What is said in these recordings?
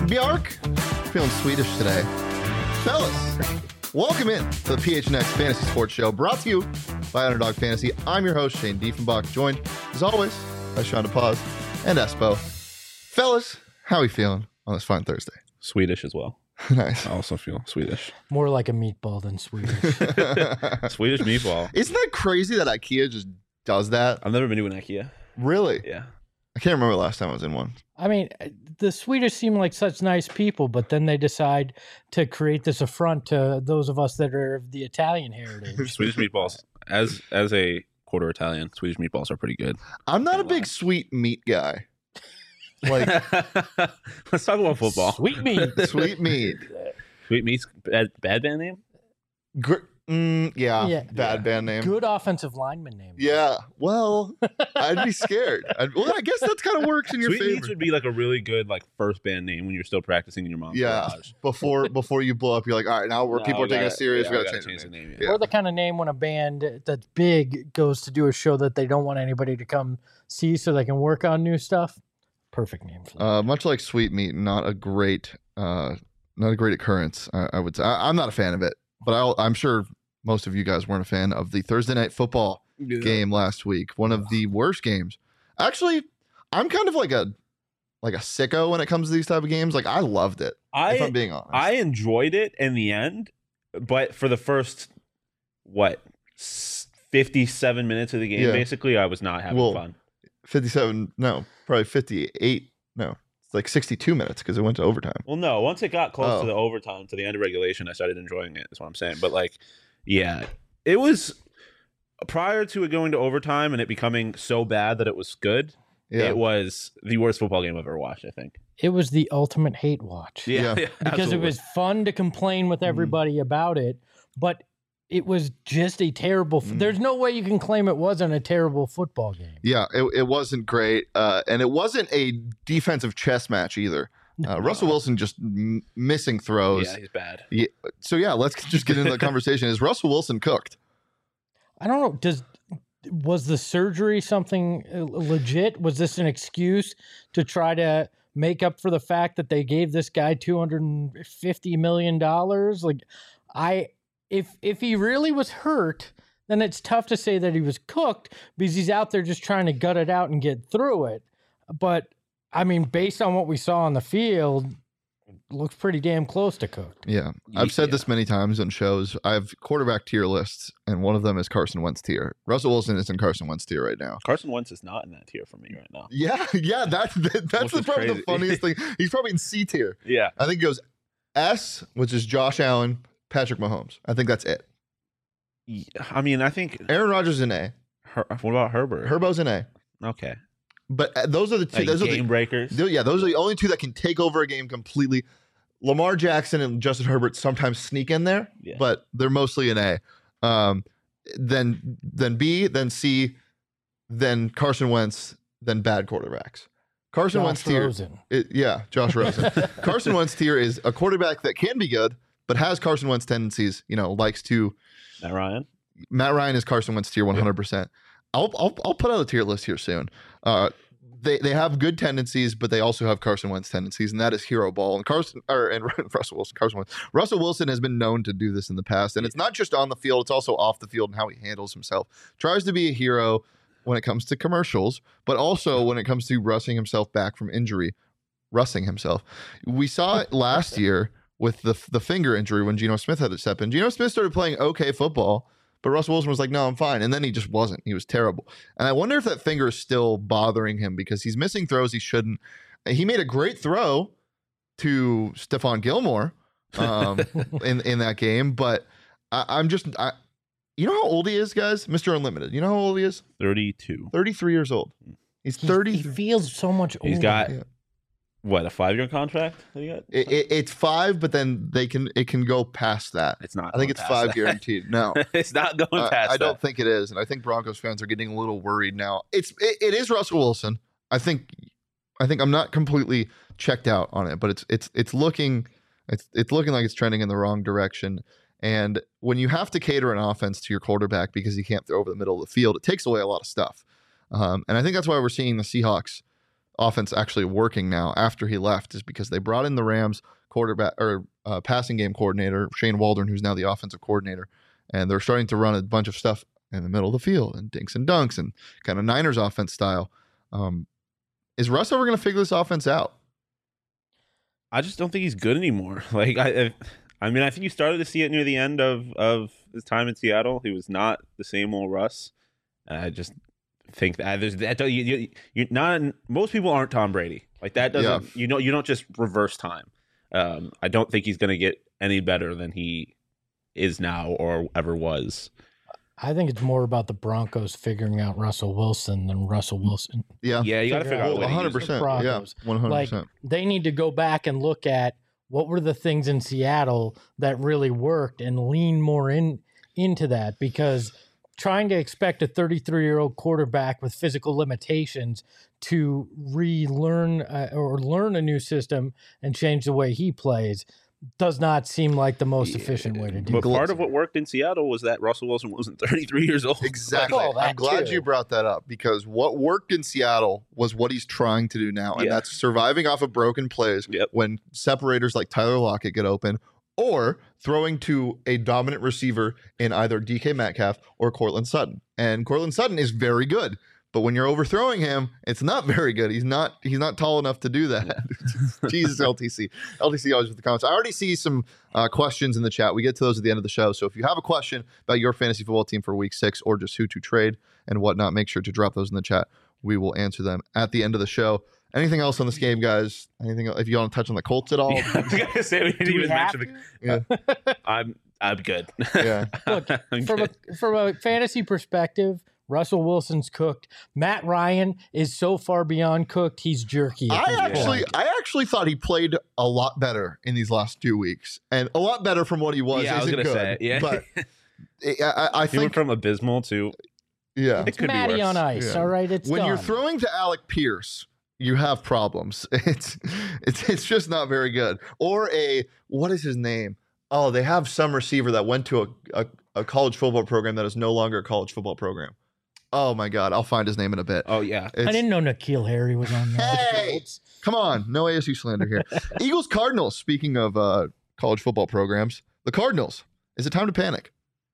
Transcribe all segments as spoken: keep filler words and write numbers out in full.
Bjark. Feeling Swedish today. Fellas, welcome in to the P H N X Fantasy Sports Show, brought to you by Underdog Fantasy. I'm your host, Shane Diefenbach, joined, as always, by Sean DePaz and Espo. Fellas, how are we feeling on this fine Thursday? Swedish as well. Nice. I also feel Swedish. More like a meatball than Swedish. Swedish meatball. Isn't that crazy that IKEA just does that? I've never been to an IKEA. Really? Yeah. I can't remember the last time I was in one. I mean, the Swedish seem like such nice people, but then they decide to create this affront to those of us that are of the Italian heritage. Swedish meatballs, as as a quarter Italian, Swedish meatballs are pretty good. I'm not a big sweet meat guy. Like, let's talk about football. Sweet meat. Sweet meat. Sweet meat's bad, bad band name? Gr- mm, yeah, Yeah. bad Yeah. band name. Good offensive lineman name. Yeah, well, I'd be scared. I'd, well, I guess that kind of works in your Sweet favor. meats would be like a really good like first band name when you're still practicing in your mom's Yeah, garage. before before you blow up, you're like, all right, now we're No, people are we taking gotta- us serious. yeah, we we gotta, gotta change, change the the name. name, Yeah. Or the kind of name when a band that's big goes to do a show that they don't want anybody to come see so they can work on new stuff. Perfect name for that. Uh, much like sweet meat, not a great, uh, not a great occurrence. I, I would say I, I'm not a fan of it, but I'll, I'm sure most of you guys weren't a fan of the Thursday night football game last week. One of the worst games. Actually, I'm kind of like a like a sicko when it comes to these type of games. Like I loved it. I if I'm being honest, I enjoyed it in the end, but for the first what s- fifty-seven minutes of the game, Yeah. basically, I was not having Well, fun. fifty-seven, no, probably fifty-eight, no, it's like sixty-two minutes because it went to overtime. Well, no, once it got close Oh. to the overtime, to the end of regulation, I started enjoying it. Is what I'm saying. But like, yeah, it was prior to it going to overtime and it becoming so bad that it was good. Yeah, It was the worst football game I've ever watched, I think. It was the ultimate hate watch. Yeah. Because absolutely. it was fun to complain with everybody about it, but it was just a terrible. F- Mm. There's no way you can claim it wasn't a terrible football game. yeah, it, it wasn't great, uh, and it wasn't a defensive chess match either. Uh, Russell Wilson just m- missing throws. Yeah, he's bad. So yeah, let's just get into the conversation. Is Russell Wilson cooked? I don't know. Does was the surgery something uh, legit? Was this an excuse to try to make up for the fact that they gave this guy two hundred fifty million dollars? Like, I if if he really was hurt, then it's tough to say that he was cooked because he's out there just trying to gut it out and get through it. But I mean, based on what we saw on the field, looks pretty damn close to cooked. Yeah, I've said Yeah. this many times on shows. I have quarterback tier lists, and one of them is Carson Wentz tier. Russell Wilson is in Carson Wentz tier right now. Carson Wentz is not in that tier for me right now. Yeah, yeah, that, that that's Which the, is probably the crazy. funniest thing. He's probably in C tier. Yeah. I think it goes S, which is Josh Allen, Patrick Mahomes. I think that's it. I mean, I think. Aaron Rodgers is an A. Her, what about Herbert? Herbo's an A. Okay. But uh, those are the two. Like those are game the, breakers. Th- Yeah, those are the only two that can take over a game completely. Lamar Jackson and Justin Herbert sometimes sneak in there, Yeah. but they're mostly an A. Um, then then B, then C, then Carson Wentz, then bad quarterbacks. Carson Josh Wentz tier, Rosen. it- yeah, Josh Rosen. Carson Wentz tier is a quarterback that can be good, but has Carson Wentz tendencies. You know, likes to. Matt Ryan. Matt Ryan is Carson Wentz tier one hundred percent. I'll, I'll I'll put out a tier list here soon. Uh, they they have good tendencies, but they also have Carson Wentz tendencies, and that is hero ball. And Carson or and Russell Wilson, Carson Wentz, Russell Wilson has been known to do this in the past, and it's not just on the field; it's also off the field and how he handles himself. Tries to be a hero when it comes to commercials, but also when it comes to rushing himself back from injury, rushing himself. We saw it last year with the the finger injury when Geno Smith had to step in. Geno Smith started playing okay football. But Russell Wilson was like, no, I'm fine. And then he just wasn't. He was terrible. And I wonder if that finger is still bothering him because he's missing throws he shouldn't. He made a great throw to Stephon Gilmore um, in, in that game. But I, I'm just, I, you know how old he is, guys? Mister Unlimited. You know how old he is? thirty-two. thirty-three years old. He's He- thirty. He feels so much older. He's got Yeah. what, a five-year contract that he got? It, it, it's five, but then they can it can go past that. It's not. I think going it's past five that. guaranteed. No. It's not going I, past I don't that. think it is, and I think Broncos fans are getting a little worried now. It's it, it is Russell Wilson. I think I think I'm not completely checked out on it, but it's it's it's looking it's it's looking like it's trending in the wrong direction. And when you have to cater an offense to your quarterback because he can't throw over the middle of the field, it takes away a lot of stuff. Um, and I think that's why we're seeing the Seahawks offense actually working now after he left is because they brought in the Rams quarterback or uh, passing game coordinator, Shane Waldron, who's now the offensive coordinator. And they're starting to run a bunch of stuff in the middle of the field and dinks and dunks and kind of Niners offense style. Um, is Russ ever going to figure this offense out? I just don't think he's good anymore. Like I, I mean, I think you started to see it near the end of of his time in Seattle. He was not the same old Russ. And I just think that there's that you, you, you're not. Most people aren't Tom Brady. Like that doesn't. Yeah. You know, you don't just reverse time. Um, I don't think he's going to get any better than he is now or ever was. I think it's more about the Broncos figuring out Russell Wilson than Russell Wilson. Yeah. Yeah, you got to Figure figure out out a way one to hundred use him. percent. Yeah, Broncos. one hundred Like percent. they need to go back and look at what were the things in Seattle that really worked and lean more in into that, because trying to expect a thirty-three-year-old quarterback with physical limitations to relearn uh, or learn a new system and change the way he plays does not seem like the most efficient way to do But it. part of what worked in Seattle was that Russell Wilson wasn't thirty-three years old. Exactly. Well, that I'm glad too. you brought that up because what worked in Seattle was what he's trying to do now. And Yeah. that's surviving off of broken plays Yep. when separators like Tyler Lockett get open, or throwing to a dominant receiver in either D K Metcalf or Cortland Sutton. And Cortland Sutton is very good. But when you're overthrowing him, it's not very good. He's not he's not tall enough to do that. Jesus, L T C. L T C always with the comments. I already see some uh, questions in the chat. We get to those at the end of the show. So if you have a question about your fantasy football team for week six or just who to trade and whatnot, make sure to drop those in the chat. We will answer them at the end of the show. Anything else on this game, guys? Anything else? If you want to touch on the Colts at all? Yeah, I was gonna say we didn't Do we even have mention to? the. Yeah. I'm I'm good. Yeah. Look, I'm from a good. from a fantasy perspective, Russell Wilson's cooked. Matt Ryan is so far beyond cooked. He's jerky. at I this actually, point. I actually thought he played a lot better in these last two weeks, and a lot better from what he was. Yeah, I was isn't gonna good, say, yeah. but I, I, I He went think, from abysmal to yeah, it could be Matty worse. on ice. Yeah. All right, it's when done. you're throwing to Alec Pierce, you have problems. It's, it's, it's just not very good. Or a what is his name? Oh, they have some receiver that went to a, a, a college football program that is no longer a college football program. Oh my God, I'll find his name in a bit. Oh yeah. I It's- didn't know N'Keal Harry was on there. Hey! Come on, no A S U slander here. Eagles Cardinals. Speaking of uh, college football programs, the Cardinals. Is it time to panic?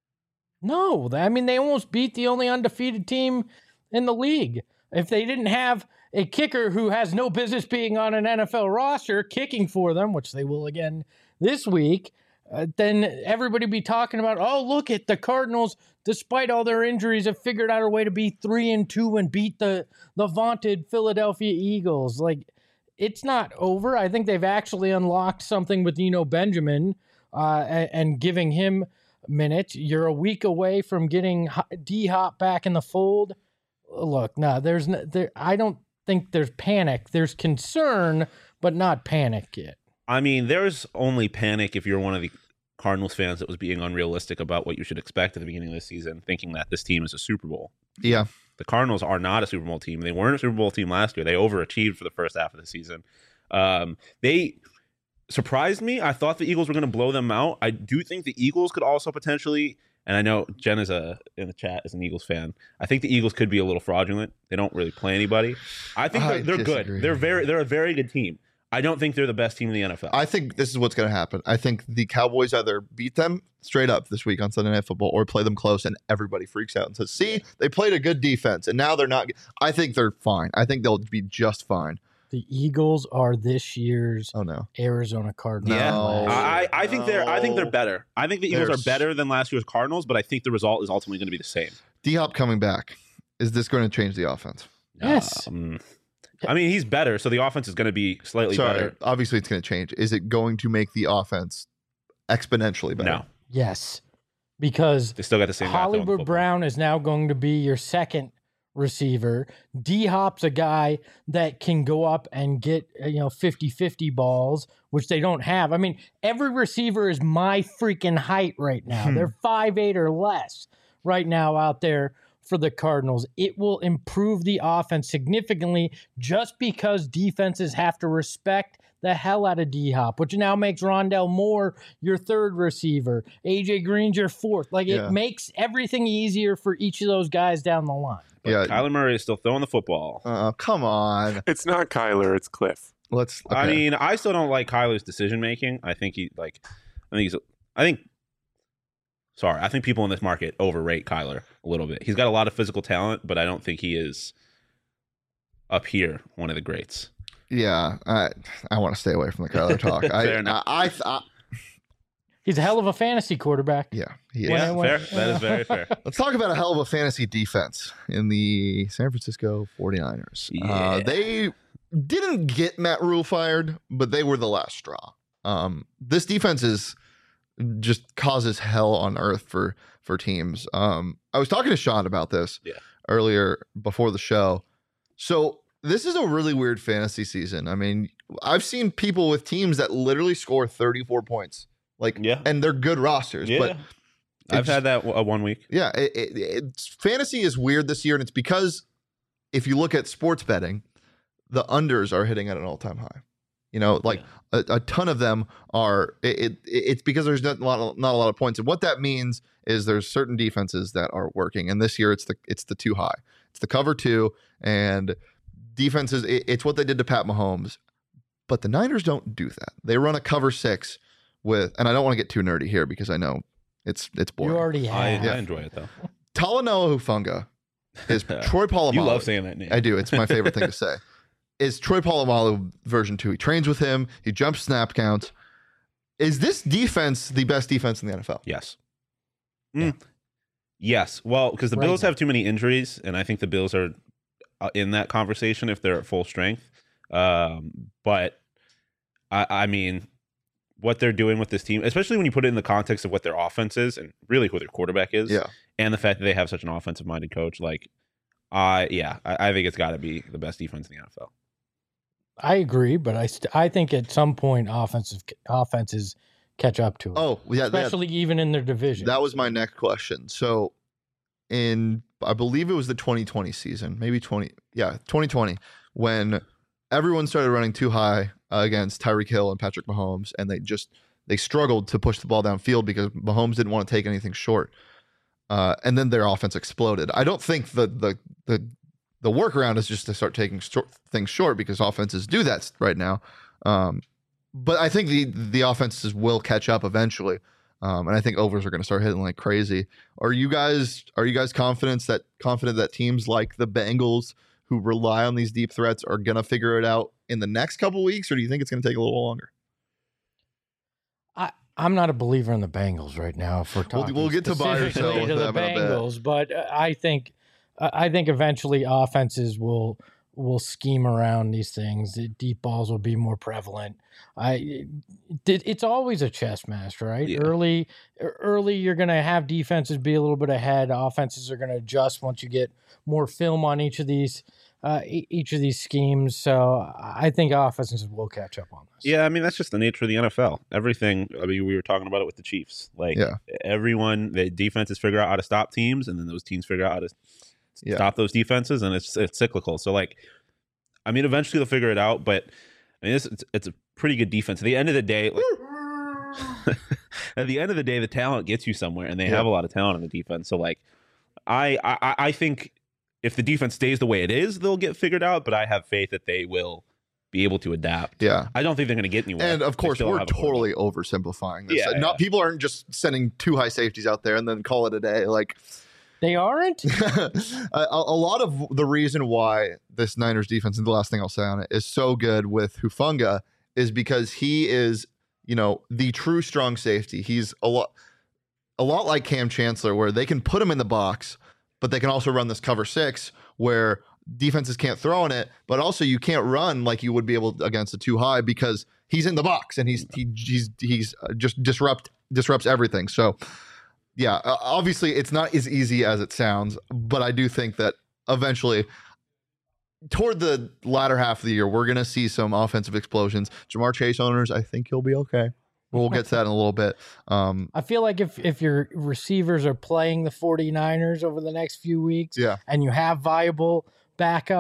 No, I mean they almost beat the only undefeated team in the league. If they didn't have a kicker who has no business being on an N F L roster kicking for them, which they will again this week, uh, then everybody be talking about, oh, look at the Cardinals, despite all their injuries, have figured out a way to be three and two and beat the the vaunted Philadelphia Eagles. Like, it's not over. I think they've actually unlocked something with Eno Benjamin uh, and, and giving him minutes. You're a week away from getting D-Hop back in the fold. Look, no, there's no, there. I don't think there's panic. There's concern, but not panic yet. I mean, there's only panic if you're one of the Cardinals fans that was being unrealistic about what you should expect at the beginning of the season, thinking that this team is a Super Bowl. Yeah. The Cardinals are not a Super Bowl team. They weren't a Super Bowl team last year. They overachieved for the first half of the season. Um, they surprised me. I thought the Eagles were going to blow them out. I do think the Eagles could also potentially, and I know Jen is a in the chat is an Eagles fan. I think the Eagles could be a little fraudulent. They don't really play anybody. I think I they're, they're disagree. good. They're very they're a very good team. I don't think they're the best team in the N F L. I think this is what's going to happen. I think the Cowboys either beat them straight up this week on Sunday Night Football or play them close and everybody freaks out and says, see, they played a good defense and now they're not. I think they're fine. I think they'll be just fine. The Eagles are this year's Oh, no. Arizona Cardinals. Yeah, No. I, I think they're I think they're No. better. I think the Eagles There's- are better than last year's Cardinals, but I think the result is ultimately going to be the same. D-Hop coming back. Is this going to change the offense? Yes. Um, I mean, he's better, so the offense is going to be slightly Sorry. better. Obviously, it's going to change. Is it going to make the offense exponentially better? No, Yes, because they still got the same. guy throwing the Hollywood football. Brown is now going to be your second receiver. D-Hop's a guy that can go up and get, uh, you know, fifty-fifty balls, which they don't have. I mean, every receiver is my freaking height right now. Hmm. They're five eight or less right now out there for the Cardinals. It will improve the offense significantly just because defenses have to respect the hell out of D-Hop, which now makes Rondell Moore your third receiver. A J Green's your fourth. Like, Yeah. it makes everything easier for each of those guys down the line. But Yeah. Kyler Murray is still throwing the football. Uh, come on. It's not Kyler, it's Cliff. Let's. I okay. mean, I still don't like Kyler's decision making. I think he like, I think he's, I think. Sorry, I think people in this market overrate Kyler a little bit. He's got a lot of physical talent, but I don't think he is up here one of the greats. Yeah, I I want to stay away from the Kyler talk. I, Fair enough. I, I, I He's a hell of a fantasy quarterback. yeah, he is. Yeah, When- fair. when- That is very fair. Let's talk about a hell of a fantasy defense in the San Francisco forty-niners. Yeah. Uh, they didn't get Matt Rule fired, but they were the last straw. Um, this defense is just causes hell on earth for for teams. Um, I was talking to Sean about this Yeah. earlier before the show. So this is a really weird fantasy season. I mean, I've seen people with teams that literally score thirty-four points, like, Yeah. and they're good rosters, Yeah. but I've it's- had that a one week. yeah, it, it, it's fantasy is weird this year, and it's because if you look at sports betting, the unders are hitting at an all-time high. You know, like a, a ton of them are. It, it it's because there's not a lot of, not a lot of points, and what that means is there's certain defenses that are working, and this year it's the it's the too high, it's the cover two, and defenses. It, it's what they did to Pat Mahomes, but the Niners don't do that. They run a cover six with, and I don't want to get too nerdy here because I know it's it's boring. You already I, have. I enjoy it though. Talanoa Hufanga is Troy Polamalu. You love saying that name. I do. It's my favorite thing to say. Is Troy Polamalu version two. He trains with him. He jumps snap counts. Is this defense the best defense in the N F L? Yes. Mm. Yes. Well, because the Right Bills now. have too many injuries, and I think the Bills are uh, in that conversation if they're at full strength. Um, but I, I mean, what they're doing with this team, especially when you put it in the context of what their offense is and really who their quarterback is, Yeah. and the fact that they have such an offensive-minded coach, like, I yeah, I, I think it's got to be the best defense in the N F L. I agree, but I st- I think at some point offensive offenses catch up to it. Oh, yeah. that- especially even in their division. That was my next question. So, in I believe it was the twenty twenty season, maybe twenty, yeah, twenty twenty, when everyone started running too high uh, against Tyreek Hill and Patrick Mahomes, and they just they struggled to push the ball downfield because Mahomes didn't want to take anything short, uh, and then their offense exploded. I don't think the the the the workaround is just to start taking short, things short because offenses do that right now. Um, but I think the the offenses will catch up eventually. Um, and I think overs are going to start hitting like crazy. Are you guys are you guys confident that confident that teams like the Bengals who rely on these deep threats are going to figure it out in the next couple weeks, or do you think it's going to take a little longer? I, I'm not a believer in the Bengals right now. If we're We'll- talking we'll get to buy or sell specifically with to the them in a bit. Bengals, but uh, I think uh, I think eventually offenses will will scheme around these things. The deep balls will be more prevalent. I it, it's always a chess match, right? Yeah. Early early you're going to have defenses be a little bit ahead. Offenses are going to adjust once you get more film on each of these uh, e- each of these schemes. So I think offenses will catch up on this. Yeah, I mean that's just the nature of the N F L. Everything. I mean, we were talking about it with the Chiefs. Like Yeah. everyone, the defenses figure out how to stop teams, and then those teams figure out how to Yeah. stop those defenses, and it's it's cyclical. So like, I mean, eventually they'll figure it out. But I mean, it's it's, it's a pretty good defense. At the end of the day, like, at the end of the day, the talent gets you somewhere, and they Yeah. have a lot of talent on the defense. So like, I I, I think if the defense stays the way it is, they'll get figured out. But I have faith that they will be able to adapt. Yeah. I don't think they're going to get anywhere. And of They course, still we're have a quarterback. totally oversimplifying this. Yeah, Not yeah. people aren't just sending two high safeties out there and then call it a day. Like They aren't? a, a lot of the reason why this Niners defense, and the last thing I'll say on it, is so good with Hufanga is because he is, you know, the true strong safety. He's a lot, a lot like Cam Chancellor, where they can put him in the box, but they can also run this cover six where defenses can't throw in it, but also you can't run like you would be able against a too high because he's in the box and he's he, he's he's uh, just disrupt disrupts everything. So yeah, uh, obviously it's not as easy as it sounds, but I do think that eventually toward the latter half of the year, we're going to see some offensive explosions. Jamar Chase owners, I think he'll be okay. We'll get to that in a little bit. Um, I feel like if, if your receivers are playing the forty-niners over the next few weeks yeah. and you have viable backups,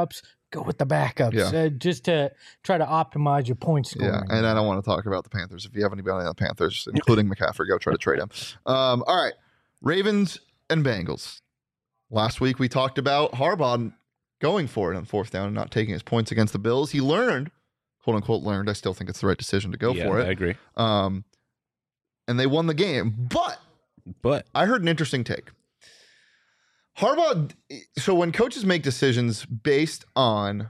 go with the backups Yeah. uh, just to try to optimize your point scoring. Yeah, and I don't want to talk about the Panthers. If you have anybody on the Panthers, including McCaffrey, go try to trade him. Um, all right, Ravens and Bengals. Last week we talked about Harbaugh going for it on fourth down and not taking his points against the Bills. He learned, quote unquote, learned. I still think it's the right decision to go yeah, for it. I agree. Um, and they won the game. But But I heard an interesting take. Harbaugh, so when coaches make decisions based on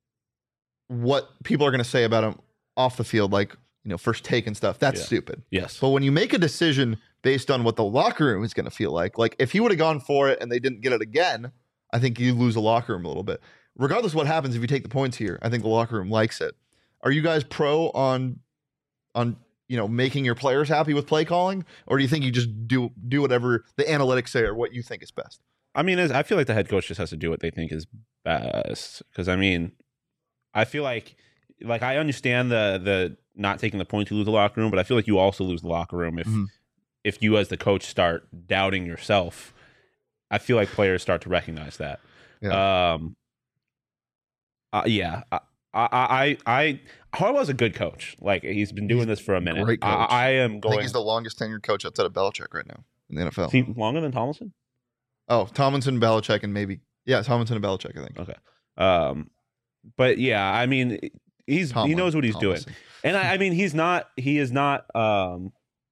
what people are going to say about him off the field, like, you know, first take and stuff, that's Yeah. stupid. yes, But when you make a decision based on what the locker room is going to feel like, like if he would have gone for it and they didn't get it again, I think you lose the locker room a little bit. Regardless of what happens, if you take the points here, I think the locker room likes it. Are you guys pro on, on you know, making your players happy with play calling, or do you think you just do do whatever the analytics say or what you think is best? I mean, as- I feel like the head coach just has to do what they think is best. Because I mean, I feel like, like I understand the the not taking the point to lose the locker room, but I feel like you also lose the locker room if Mhm. if you as the coach start doubting yourself. I feel like players start to recognize that. Yeah. Um. uh, yeah. I, I, I, I, Harbaugh's a good coach. Like he's been doing this for a minute. great coach. I, I am I going. think he's the longest tenured coach outside of Belichick right now in the N F L. Is he longer than Tomlinson? Oh, Tomlinson, Belichick, and maybe yeah, Tomlinson and Belichick. I think. Okay. Um, but yeah, I mean, he's he Tomlin, knows what he's Tomlinson. doing, and I, I mean, he's not he is not um,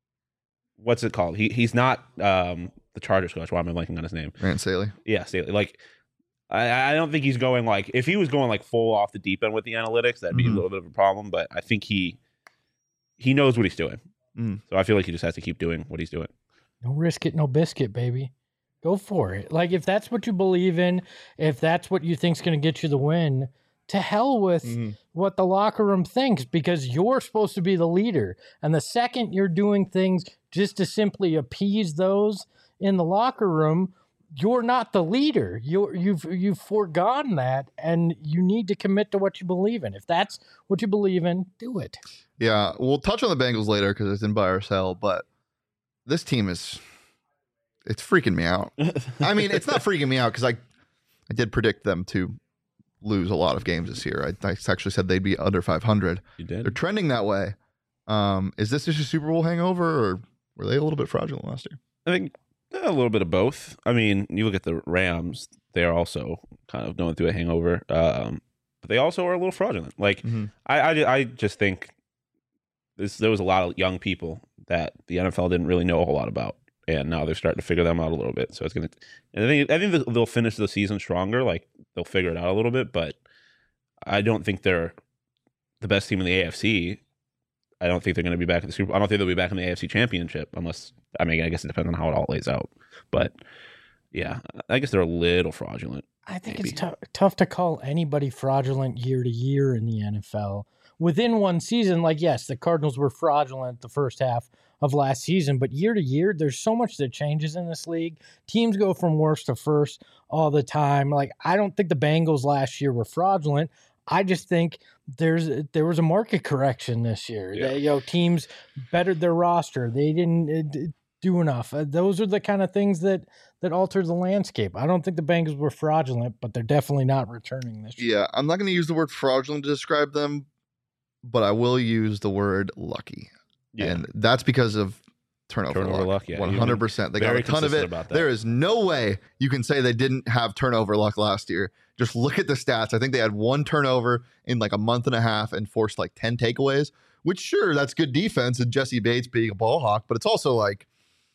what's it called? He he's not um the Chargers coach. Why am I blanking on his name? Rand Staley. Yeah, Staley. Like, I I don't think he's going like if he was going like full off the deep end with the analytics, that'd be Mhm. a little bit of a problem. But I think he he knows what he's doing, Mm. so I feel like he just has to keep doing what he's doing. No risk it, no biscuit, baby. Go for it. Like if that's what you believe in, if that's what you think's going to get you the win, to hell with Mhm. what the locker room thinks, because you're supposed to be the leader. And the second you're doing things just to simply appease those in the locker room, you're not the leader. You're, you've you've foregone that, and you need to commit to what you believe in. If that's what you believe in, do it. Yeah, we'll touch on the Bengals later because it's in buy or sell, but this team is it's freaking me out. I mean, it's not freaking me out because I I did predict them to lose a lot of games this year. I, I actually said they'd be under five hundred. You They're did. trending that way. Um, is this just a Super Bowl hangover, or were they a little bit fraudulent last year? I think eh, a little bit of both. I mean, you look at the Rams; they're also kind of going through a hangover, um, but they also are a little fraudulent. Like Mhm. I, I, I just think this, there was a lot of young people that the N F L didn't really know a whole lot about, and now they're starting to figure them out a little bit. So it's gonna, and I think I think they'll finish the season stronger. Like they'll figure it out a little bit, but I don't think they're the best team in the A F C. I don't think they're going to be back in the Super Bowl. I don't think they'll be back in the A F C Championship unless, I mean, I guess it depends on how it all lays out. But yeah, I guess they're a little fraudulent. I think Maybe. it's tou- tough to call anybody fraudulent year to year in the N F L. Within one season, like, yes, the Cardinals were fraudulent the first half of last season, but year to year, there's so much that changes in this league. Teams go from worst to first all the time. Like, I don't think the Bengals last year were fraudulent. I just think there's there was a market correction this year. Yeah. They, you know, teams bettered their roster. They didn't uh, d- do enough. Uh, those are the kind of things that that altered the landscape. I don't think the Bengals were fraudulent, but they're definitely not returning this year. Yeah, I'm not going to use the word fraudulent to describe them, but I will use the word lucky. And that's because of turnover, Turnover luck. luck, yeah. one hundred percent. They got very a ton of consistent it. about that. There is no way you can say they didn't have turnover luck last year. Just look at the stats. I think they had one turnover in like a month and a half and forced like ten takeaways, which sure, that's good defense and Jesse Bates being a ball hawk, but it's also like,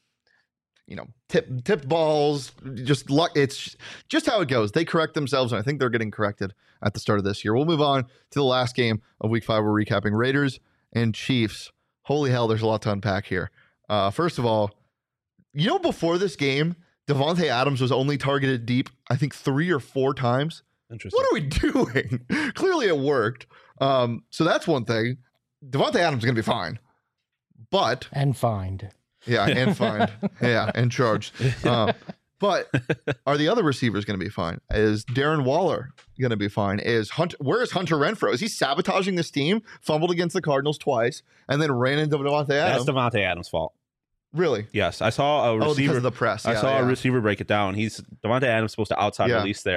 you know, tip tip balls, just luck. It's just how it goes. They correct themselves, and I think they're getting corrected at the start of this year. We'll move on to the last game of week five. We're recapping Raiders and Chiefs. Holy hell, there's a lot to unpack here. Uh, first of all, you know, before this game, Devontae Adams was only targeted deep, I think, three or four times. Interesting. What are we doing? Clearly it worked. Um, so that's one thing. Devontae Adams is going to be fine. But, And fined. yeah, and fined. yeah, and charged. Uh, but are the other receivers going to be fine? Is Darren Waller going to be fine? Is Hunter, where is Hunter Renfro? Is he sabotaging this team? Fumbled against the Cardinals twice and then ran into Devontae Adams. That's Devontae Adams' fault. Really? Yes, I saw a Oh, because receiver. of the press. I Yeah, saw yeah. a receiver break it down. He's Devontae Adams supposed to outside Yeah. release there. Yep.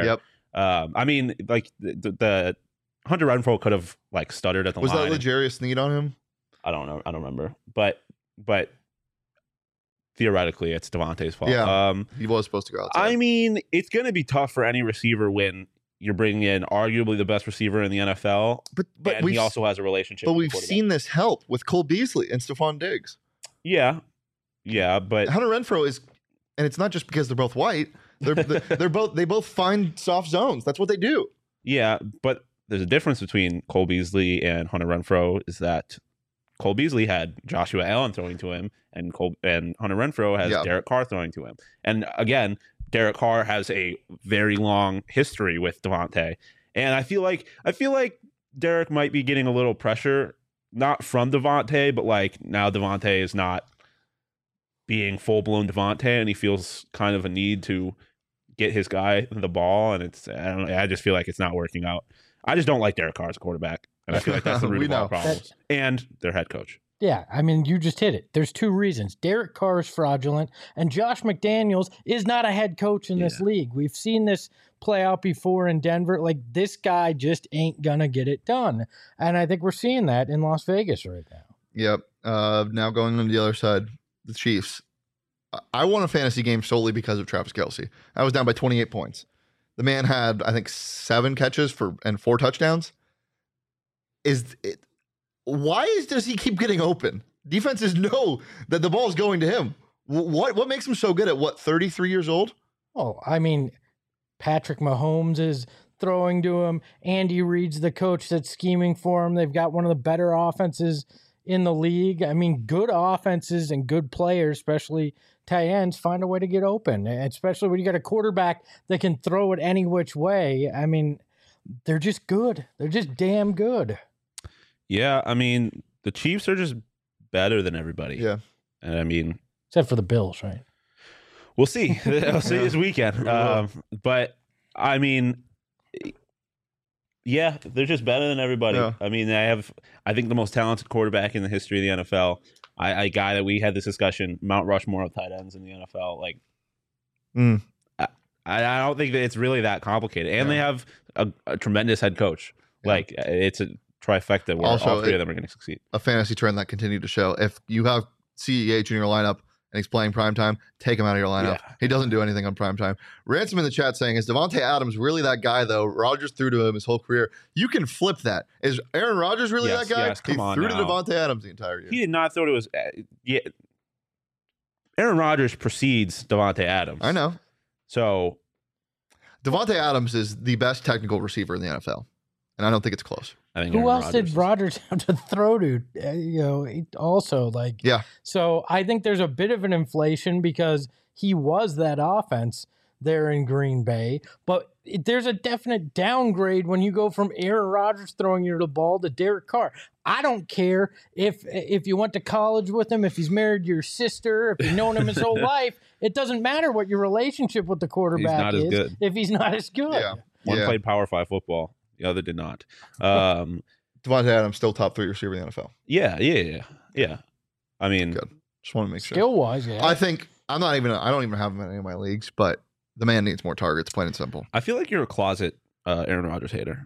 Um, I mean, like the, the Hunter Renfrow could have like stuttered at the Was line. that L'Jarius Sneed on him? I don't know. I don't remember. But but theoretically, it's Devontae's fault. Yeah. Um, He was supposed to go outside. I mean, it's going to be tough for any receiver when you're bringing in arguably the best receiver in the N F L, but but and we've he also has a relationship. but with the we've quarterback. seen this help with Cole Beasley and Stephon Diggs. Yeah, yeah, but Hunter Renfrow is, and it's not just because they're both white. They're they're both they both find soft zones. That's what they do. yeah, but there's a difference between Cole Beasley and Hunter Renfrow. Is that Cole Beasley had Joshua Allen throwing to him, and Cole and Hunter Renfrow has Yeah. Derek Carr throwing to him. And again, Derek Carr has a very long history with Devontae, and I feel like I feel like Derek might be getting a little pressure, not from Devontae, but like now Devontae is not being full blown Devontae, and he feels kind of a need to get his guy the ball, and it's I don't know, I just feel like it's not working out. I just don't like Derek Carr as a quarterback, and I feel like that's the root We of all know. problems. And their head coach. Yeah, I mean, you just hit it. There's two reasons. Derek Carr is fraudulent, and Josh McDaniels is not a head coach in this Yeah. league. We've seen this play out before in Denver. Like, this guy just ain't going to get it done. And I think we're seeing that in Las Vegas right now. Yep. Uh, now going on the other side, the Chiefs. I- I won a fantasy game solely because of Travis Kelce. I was down by twenty-eight points. The man had, I think, seven catches for and four touchdowns. Is it? Why is, does he keep getting open? Defenses know that the ball is going to him. Wh- What what makes him so good at what thirty-three years old? Oh, I mean, Patrick Mahomes is throwing to him. Andy Reid's the coach that's scheming for him. They've got one of the better offenses in the league. I mean, good offenses and good players, especially tight ends, find a way to get open, especially when you got a quarterback that can throw it any which way. I mean, they're just good. They're just damn good. Yeah, I mean, the Chiefs are just better than everybody. Yeah. And I mean, Except for the Bills, right? we'll see. we'll see this weekend. We will. Um, but I mean, yeah, they're just better than everybody. Yeah. I mean, I have, I think, the most talented quarterback in the history of the N F L. I, a guy that we had this discussion, Mount Rushmore of tight ends in the N F L. Like, Mm. I, I don't think that it's really that complicated. And Yeah. they have a, a tremendous head coach. Yeah. Like, it's a trifecta where Also, all three it- of them are going to succeed. A fantasy trend that continued to show. If you have C E H in your lineup and he's playing primetime, take him out of your lineup. Yeah. He doesn't do anything on primetime. Ransom in the chat saying, is Devontae Adams really that guy, though? Rodgers threw to him his whole career. You can flip that. Is Aaron Rodgers really Yes, that guy? yes, come he on threw to now. Devontae Adams the entire year. He did not throw to his. Uh, yeah, Aaron Rodgers precedes Devontae Adams. I know. So Devontae Adams is the best technical receiver in the N F L. And I don't think it's close. I think Who Aaron else Rodgers did is- Rodgers have to throw to? Uh, you know, he also like Yeah. So I think there's a bit of an inflation because he was that offense there in Green Bay, but it, there's a definite downgrade when you go from Aaron Rodgers throwing you the ball to Derek Carr. I don't care if if you went to college with him, if he's married to your sister, if you've known him his whole life. It doesn't matter what your relationship with the quarterback not as is good. if he's not as good. Yeah. One yeah. played Power Five football, the other did not. Um, Devontae Adams still top three receiver in the N F L. yeah, yeah, yeah, yeah. I mean, Good. Just want to make sure. Skill wise, yeah. I think I'm not even. I don't even have him in any of my leagues, but the man needs more targets, plain and simple. I feel like you're a closet uh, Aaron Rodgers hater.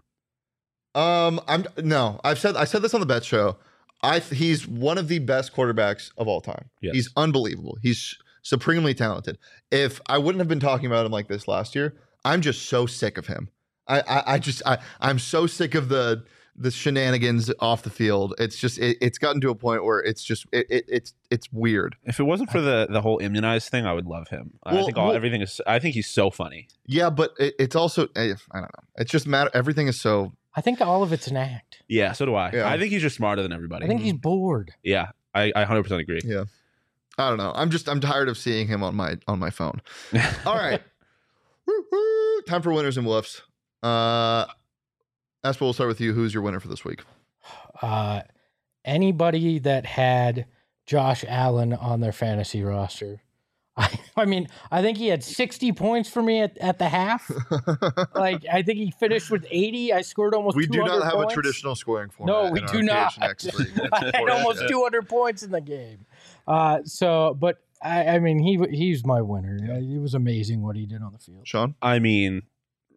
Um, I'm no. I've said I said this on the Bet Show. I th- he's one of the best quarterbacks of all time. Yes. He's unbelievable. He's supremely talented. If I wouldn't have been talking about him like this last year, I'm just so sick of him. I I, I just I I'm so sick of the the shenanigans off the field. It's just it, it's gotten to a point where it's just it, it it's it's weird. If it wasn't for the the whole immunized thing, I would love him. I Well, think all well- everything is. I think he's so funny. Yeah, but it, it's also eh, I don't know. It's just matter. Everything is so. I think all of it's an act. Yeah, so do I. Yeah. I think he's just smarter than everybody. I think he's bored. Yeah, I, I one hundred percent agree. Yeah. I don't know. I'm just I'm tired of seeing him on my on my phone. All right. Woo, woo. Time for winners and bluffs. Uh Espo, we'll start with you. Who's your winner for this week? Uh, anybody that had Josh Allen on their fantasy roster. I, I mean, I think he had sixty points for me at, at the half. Like, I think he finished with eighty. I scored almost we do two hundred not have points. a traditional scoring format. No, we in our do not. P H N X league. I had almost Yeah. two hundred points in the game. Uh, so, but I, I mean, he he's my winner. Uh, It was amazing what he did on the field. Sean? I mean,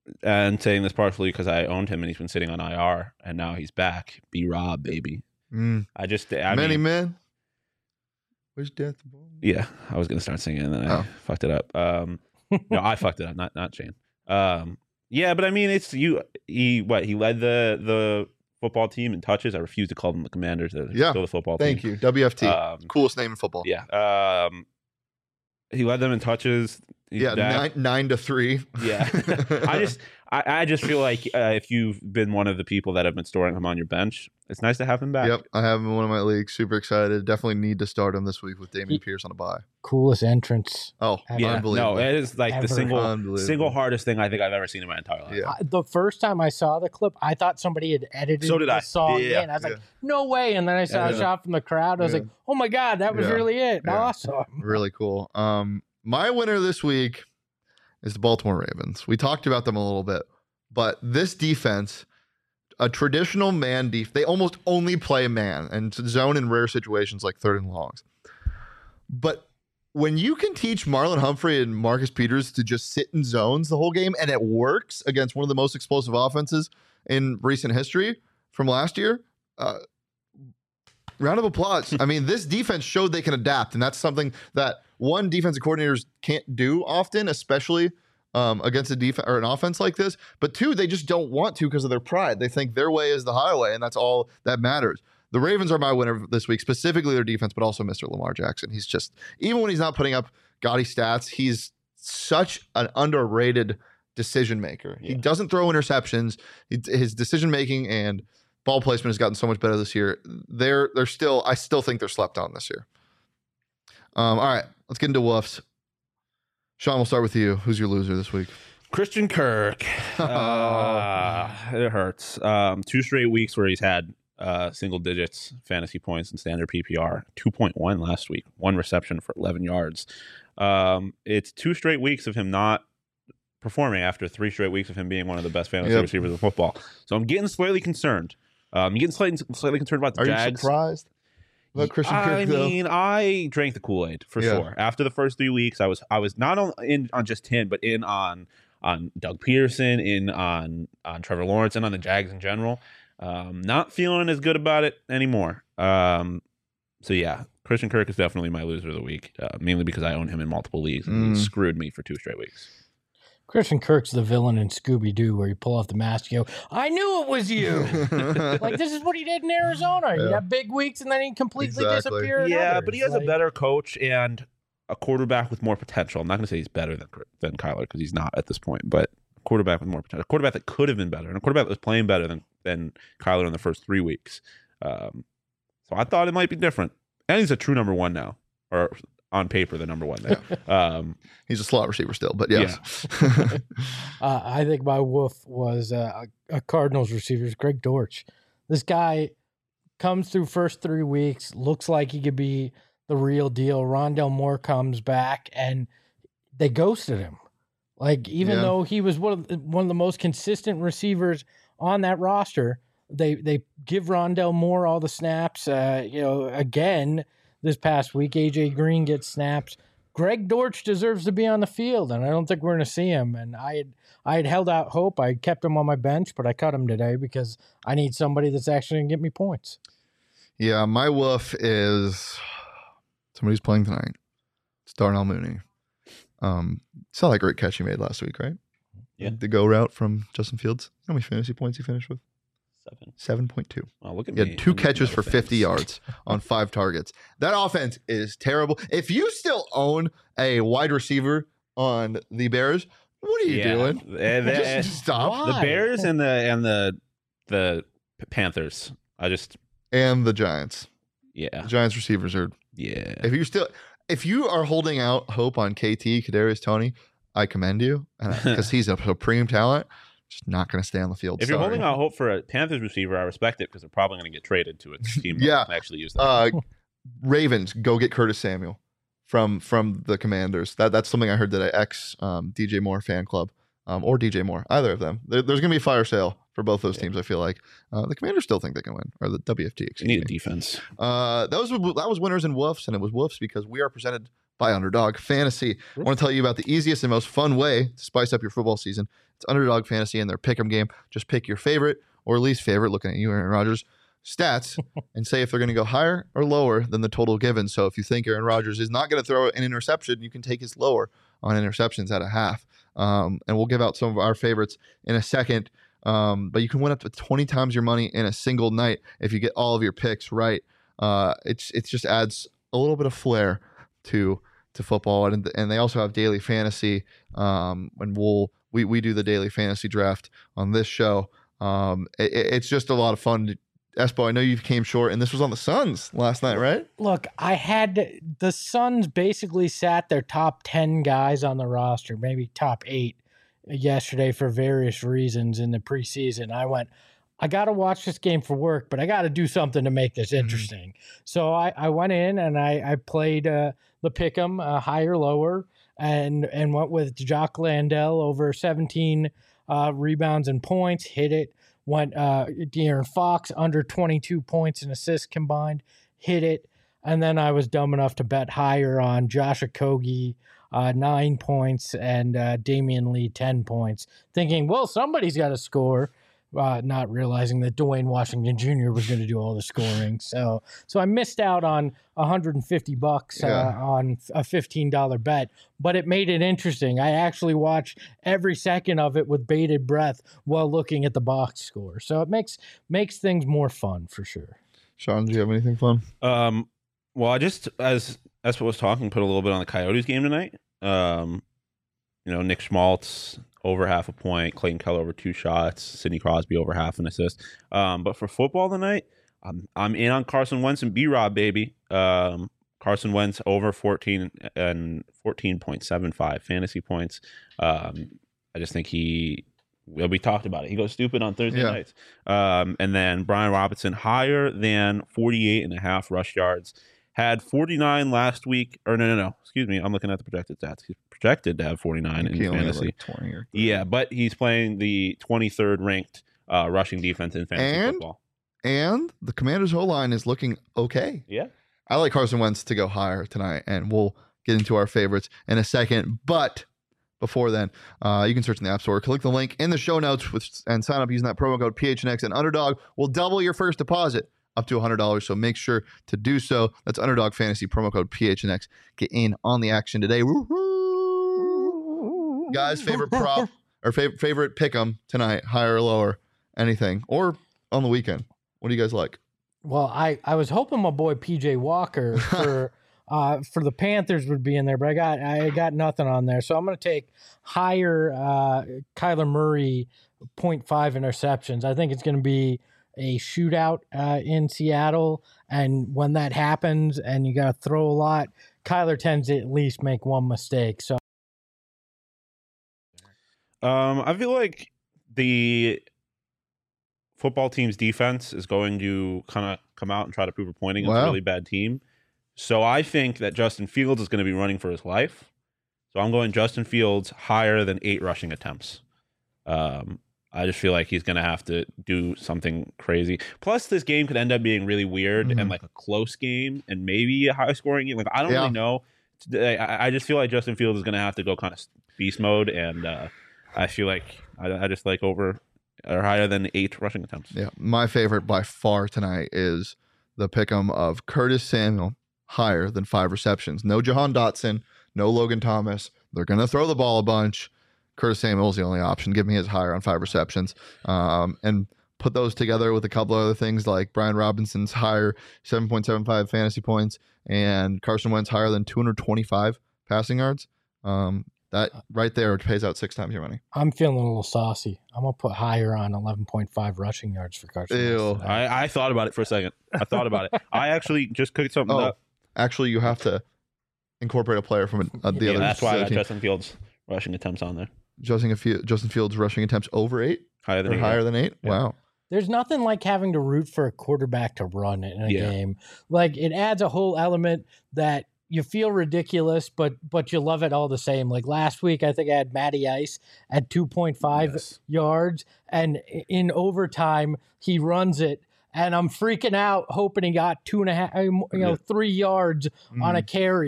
and saying this partially because I owned him and he's been sitting on I R and now he's back. B Rob, baby. Mm. I just I Many mean, men. Where's death? Yeah, I was gonna start singing and then I Oh. fucked it up. Um, no, I fucked it up, not not Shane. Um, yeah, but I mean, it's you. He what? He led the the football team in touches. I refuse to call them the Commanders. They're Yeah. still the football Thank team. you. W F T. Um, Coolest name in football. Yeah. Um, he led them in touches. He's yeah, back. nine, nine to three. Yeah. I just I, I just feel like uh, if you've been one of the people that have been storing him on your bench, it's nice to have him back. Yep, I have him in one of my leagues. Super excited. Definitely need to start him this week with Damian He- Pierce on a bye. Coolest entrance. Oh, Yeah. unbelievable. No, it is like Ever. the single Unbelievable. single hardest thing I think I've ever seen in my entire life. Yeah. I, the first time I saw the clip, I thought somebody had edited So did the I. song Yeah, in. I was yeah. like, no way. And then I saw Yeah. a shot from the crowd. I was Yeah. like, oh my God, that was Yeah. really it. Yeah. Awesome. Really cool. Um, my winner this week is the Baltimore Ravens. We talked about them a little bit, but this defense, a traditional man def, they almost only play man and zone in rare situations like third and longs. But when you can teach Marlon Humphrey and Marcus Peters to just sit in zones the whole game and it works against one of the most explosive offenses in recent history from last year, uh, round of applause. I mean, this defense showed they can adapt, and that's something that one, defensive coordinators can't do often, especially um, against a defense or an offense like this. But two, they just don't want to because of their pride. They think their way is the highway, and that's all that matters. The Ravens are my winner this week, specifically their defense, but also Mister Lamar Jackson. He's just, even when he's not putting up gaudy stats, he's such an underrated decision maker. He Yeah. doesn't throw interceptions. He, his decision making and ball placement has gotten so much better this year. They're they're still, I still think they're slept on this year. Um, all right, let's get into woofs. Sean, we'll start with you. Who's your loser this week? Christian Kirk. Uh, it hurts. Um, two straight weeks where he's had uh, single digits fantasy points in standard P P R. two point one last week. One reception for eleven yards. Um, it's two straight weeks of him not performing after three straight weeks of him being one of the best fantasy Yep. receivers in football. So I'm getting slightly concerned. Um, I'm getting slightly, slightly concerned about the Are you Jags. surprised about Christian I Kirk, though? mean, I drank the Kool-Aid for Yeah. sure. After the first three weeks, I was I was not on in on just him, but in on on Doug Peterson, in on on Trevor Lawrence, and on the Jags in general. Um, not feeling as good about it anymore. Um, so yeah, Christian Kirk is definitely my loser of the week, uh, mainly because I own him in multiple leagues and Mm. he screwed me for two straight weeks. Christian Kirk's the villain in Scooby Doo where you pull off the mask, you go, I knew it was you. Like, this is what he did in Arizona. He'd Yeah. have big weeks and then he'd completely Exactly. disappear. in Yeah, others. but he has Like, a better coach and a quarterback with more potential. I'm not going to say he's better than than Kyler because he's not at this point, but a quarterback with more potential, a quarterback that could have been better, and a quarterback that was playing better than than Kyler in the first three weeks. Um, so I thought it might be different, and he's a true number one now, or on paper the number one there. Um, He's a slot receiver still, but yes. Uh, I think my wolf was uh, a, a Cardinals receiver, Greg Dortch. This guy comes through first three weeks, looks like he could be the real deal. Rondell Moore comes back, and they ghosted him. Like, even Yeah. though he was one of the, one of the most consistent receivers on that roster, they they give Rondell Moore all the snaps. Uh, you know, again this past week, A J Green gets snaps. Greg Dortch deserves to be on the field, and I don't think we're going to see him. And I had I had held out hope. I kept him on my bench, but I cut him today because I need somebody that's actually going to get me points. Yeah, my woof is somebody's playing tonight. It's Darnell Mooney. Um, saw that great catch he made last week, right? Yeah. The go route from Justin Fields. How many fantasy points he finished with? seven. seven point two. Oh, look at He me. had two I'm looking catches at for the fifty things. yards on five targets. That offense is terrible. If you still own a wide receiver on the Bears, what are you Yeah. doing? Eh, they- eh, Just stop. Why? the Bears and the and the the Panthers. I just And the Giants. yeah The Giants receivers are. yeah. If you still, if you are holding out hope on K T, Kadarius Toney, I commend you because he's a supreme talent. Just not going to stay on the field. If you're Sorry. holding out hope for a Panthers receiver, I respect it because they're probably going to get traded to a team Yeah. that can actually use that. uh, Ravens, go get Curtis Samuel from from the Commanders. That that's something I heard that I ex um, D J Moore fan club um, or D J Moore, either of them. There, there's going to be a fire sale for both those Yeah. teams. I feel like uh, the Commanders still think they can win, or the W F T. They Excuse need me. a defense. Uh, that was that was winners and woofs, and it was woofs because we are presented by Underdog Fantasy. I want to tell you about the easiest and most fun way to spice up your football season. It's Underdog Fantasy and their pick'em game. Just pick your favorite or least favorite, looking at you, Aaron Rodgers, stats and say if they're going to go higher or lower than the total given. So if you think Aaron Rodgers is not going to throw an interception, you can take his lower on interceptions at a half. Um, and we'll give out some of our favorites in a second. Um, but you can win up to twenty times your money in a single night if you get all of your picks right. Uh, it's it just adds a little bit of flair to to football, and and they also have daily fantasy. Um, and we'll we we do the daily fantasy draft on this show. Um, it, it's just a lot of fun. To, Espo, I know you came short, and this was on the Suns last night, right? Look, I had the Suns basically sat their top ten guys on the roster, maybe top eight, yesterday for various reasons in the preseason. I went, I got to watch this game for work, but I got to do something to make this interesting. Mm-hmm. So I, I went in and I, I played uh, the pick'em, uh, higher, lower, and and went with Jock Landell over seventeen uh, rebounds and points, hit it. Went uh, De'Aaron Fox under twenty-two points and assists combined, hit it. And then I was dumb enough to bet higher on Josh Okogie, uh, nine points, and uh, Damian Lee, ten points, thinking, well, somebody's got to score, uh, not realizing that Dwayne Washington Junior was going to do all the scoring. So so I missed out on one hundred fifty bucks yeah. uh, on a fifteen dollar bet, but it made it interesting. I actually watched every second of it with bated breath while looking at the box score. So it makes makes things more fun for sure. Sean, do you have anything fun? Um, well, I just, as Espo was talking, put a little bit on the Coyotes game tonight. Um, you know, Nick Schmaltz over half a point, Clayton Keller over two shots, Sidney Crosby over half an assist. Um, but for football tonight, I'm I'm in on Carson Wentz and B-Rob, baby. Um, Carson Wentz over fourteen and fourteen point seven five fantasy points. Um, I just think he, well, we talked about it. He goes stupid on Thursday yeah. nights. Um, and then Brian Robinson higher than forty-eight and a half rush yards. Had forty-nine last week, or no, no, no. Excuse me. I'm looking at the projected stats. He's projected to have forty-nine in fantasy. Like twenty or yeah, but he's playing the twenty-third ranked uh, rushing defense in fantasy and, football. And the Commanders' O-line is looking okay. Yeah. I like Carson Wentz to go higher tonight, and we'll get into our favorites in a second. But before then, uh, you can search in the App Store. Click the link in the show notes with, and sign up using that promo code P H N X, and Underdog will double your first deposit up to one hundred dollars. So make sure to do so. That's Underdog Fantasy, promo code P H N X. Get in on the action today. Woo-hoo! Guys, favorite prop or favorite favorite pick 'em tonight, higher or lower, anything, or on the weekend. What do you guys like? Well, I, I was hoping my boy P J Walker for uh, for the Panthers would be in there, but I got I got nothing on there. So I'm going to take higher uh, Kyler Murray zero point five interceptions. I think it's going to be a shootout uh, in Seattle, and when that happens and you got to throw a lot, Kyler tends to at least make one mistake. So um, I feel like the football team's defense is going to kind of come out and try to prove a point against wow. a really bad team. So I think that Justin Fields is going to be running for his life. So I'm going Justin Fields higher than eight rushing attempts. Um, I just feel like he's going to have to do something crazy. Plus, this game could end up being really weird mm-hmm. and like a close game and maybe a high scoring game. Like I don't yeah. really know. I, I just feel like Justin Fields is going to have to go kind of beast mode, and uh, I feel like I, I just like over or higher than eight rushing attempts. Yeah, my favorite by far tonight is the pick'em of Curtis Samuel higher than five receptions. No Jahan Dotson, no Logan Thomas. They're going to throw the ball a bunch. Curtis Samuel's the only option. Give me his higher on five receptions. Um, and put those together with a couple other things like Brian Robinson's higher seven point seven five fantasy points and Carson Wentz higher than two hundred twenty-five passing yards. Um, that right there pays out six times your money. I'm feeling a little saucy. I'm going to put higher on eleven point five rushing yards for Carson Wentz. I, I thought about it for a second. I thought about it. I actually just cooked something oh, up. Actually, you have to incorporate a player from a, a, the yeah, other That's why I got team. Justin Fields rushing attempts on there. Justin, Justin Fields rushing attempts over eight? Higher than or eight. Higher than eight? Yeah. Wow. There's nothing like having to root for a quarterback to run in a yeah. game. Like it adds a whole element that you feel ridiculous, but but you love it all the same. Like last week, I think I had Matty Ice at two point five yes. yards, and in overtime, he runs it, and I'm freaking out, hoping he got two and a half, you know, three yards mm. on a carry.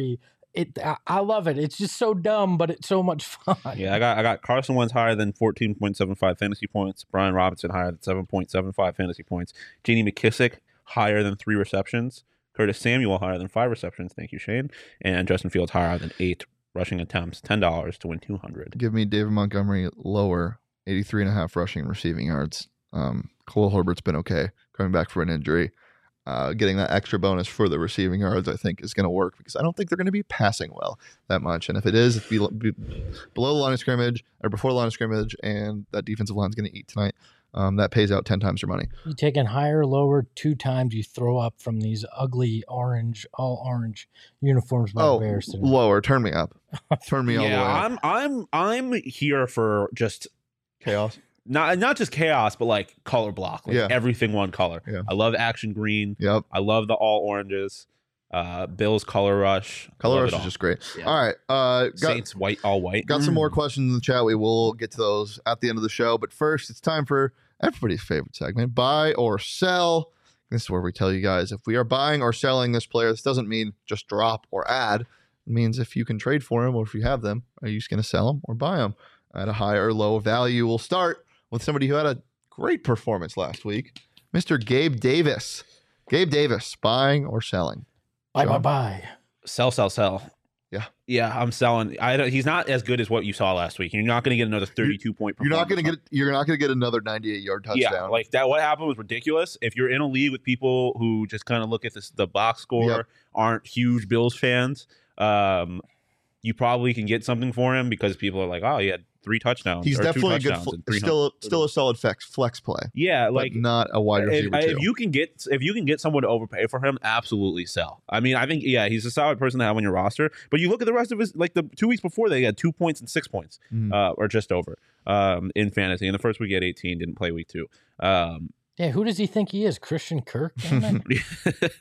it I, I love it. It's just so dumb, but it's so much fun. Yeah, I got I got Carson Wentz higher than fourteen point seven five fantasy points. Brian Robinson higher than seven point seven five fantasy points. J D McKissick higher than three receptions. Curtis Samuel higher than five receptions. Thank you, Shane. And Justin Fields higher than eight rushing attempts. ten dollars to win two hundred. Give me David Montgomery lower, eighty-three and a half rushing and receiving yards. Um, Khalil Herbert's been okay coming back from an injury. Uh, getting that extra bonus for the receiving yards, I think, is going to work because I don't think they're going to be passing well that much. And if it is, it's be, be below the line of scrimmage or before the line of scrimmage, and that defensive line is going to eat tonight. Um, that pays out ten times your money. You taking higher, lower, two times you throw up from these ugly orange, all orange uniforms by Oh, the Bears today. lower. Turn me up. Turn me all the way Yeah, up. I'm I'm I'm here for just Chaos. not not just chaos, but like color block, like Yeah. everything one color. Yeah. I love action green. Yep. I love the all oranges. Uh, Bills color rush. Color Love rush it is all. just great. Yeah. All right. Uh, got, Saints white, all white. got some Mm. more questions in the chat. We will get to those at the end of the show. But first, it's time for everybody's favorite segment, buy or sell. This is where we tell you guys if we are buying or selling this player. This doesn't mean just drop or add. It means if you can trade for him or if you have them, are you just going to sell them or buy them at a high or low value? We'll start with somebody who had a great performance last week, Mister Gabe Davis. Gabe Davis, buying or selling? Bye, bye, John? bye. Sell, sell, sell. Yeah. Yeah, I'm selling. I don't, he's not as good as what you saw last week. You're not going to get another thirty-two point. You're not going to performance get. You're not going to get another ninety-eight yard touchdown. Yeah, like that. What happened was ridiculous. If you're in a league with people who just kind of look at this, the box score, Yep. aren't huge Bills fans, um, you probably can get something for him because people are like, "Oh, he had three touchdowns." He's or two definitely a good. touchdowns Fl- and three still, hundred. still a solid flex flex play, Yeah, like but not a wide if, receiver too. if you can get if you can get someone to overpay for him, absolutely sell. I mean, I think yeah, he's a solid person to have on your roster. But you look at the rest of his, like the two weeks before, they had two points and six points, Mhm. uh, or just over, um, in fantasy. In the first week, he had eighteen. Didn't play week two. Um, Yeah, who does he think he is? Christian Kirk? Damn it.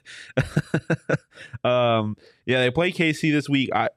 um, yeah, they play K C this week. I,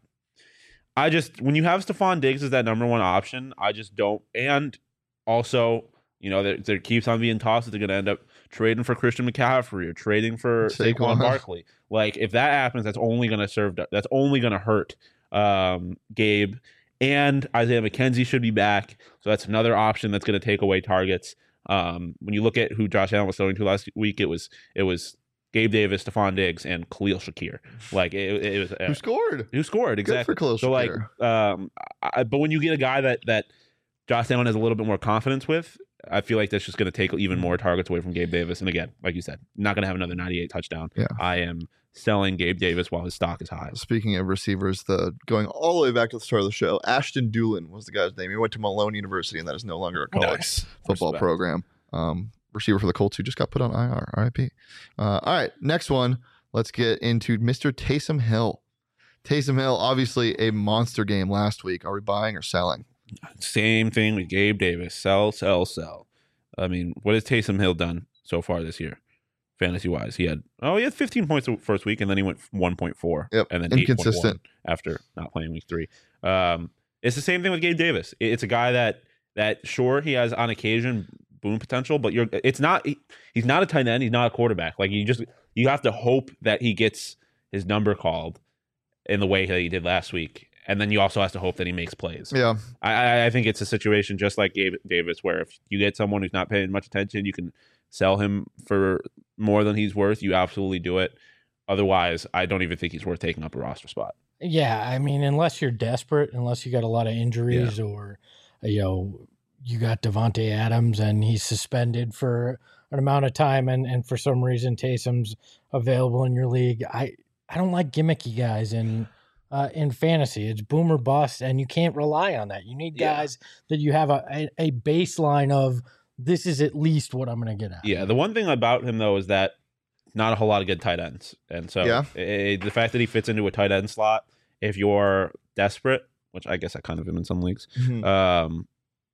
I just when you have Stephon Diggs as that number one option, I just don't. And also, you know, there, there keeps on being tossed that they're going to end up trading for Christian McCaffrey or trading for Saquon. Saquon Barkley. Like if that happens, that's only going to serve. That's only going to hurt um, Gabe. And Isaiah McKenzie should be back, so that's another option that's going to take away targets. Um, when you look at who Josh Allen was throwing to last week, it was it was Gabe Davis, Stephon Diggs, and Khalil Shakir. Like it, it was uh, Who scored? who scored exactly. Good for Khalil so like, Shakir. um, I, but when you get a guy that that Josh Allen has a little bit more confidence with, I feel like that's just going to take even more targets away from Gabe Davis. And again, like you said, not going to have another ninety-eight touchdown. Yeah. I am selling Gabe Davis while his stock is high. Speaking of receivers, the going all the way back to the start of the show, Ashton Doolin was the guy's name. He went to Malone University, and that is no longer a college Nice. football Respect. program. Um, receiver for the Colts who just got put on I R. R I P. Uh, all right, next one. Let's get into Mister Taysom Hill. Taysom Hill, obviously a monster game last week. Are we buying or selling? Same thing with Gabe Davis. Sell, sell, sell. I mean, what has Taysom Hill done so far this year, fantasy wise? He had oh, he had fifteen points the first week, and then he went one point four. Yep, and then inconsistent. eight point one after not playing week three. Um, it's the same thing with Gabe Davis. It- It's a guy that that sure he has on occasion boom potential, but you're it's not he, he's not a tight end. He's not a quarterback. Like you just you have to hope that he gets his number called in the way that he did last week. And then you also have to hope that he makes plays. Yeah, I, I- I think it's a situation just like Gabe Davis, where if you get someone who's not paying much attention, you can sell him for more than he's worth. You absolutely do it. Otherwise, I don't even think he's worth taking up a roster spot. Yeah, I mean, unless you're desperate, unless you got a lot of injuries or, you know, you got Devontae Adams and he's suspended for an amount of time and, and for some reason Taysom's available in your league. I, I don't like gimmicky guys in uh, in fantasy. It's boom or bust, and you can't rely on that. You need Yeah. guys that you have a, a, a baseline of this is at least what I'm going to get at. Yeah, the one thing about him, though, is that not a whole lot of good tight ends. And so Yeah. eh, the fact that he fits into a tight end slot, if you're desperate, which I guess I kind of am in some leagues, Mhm. um,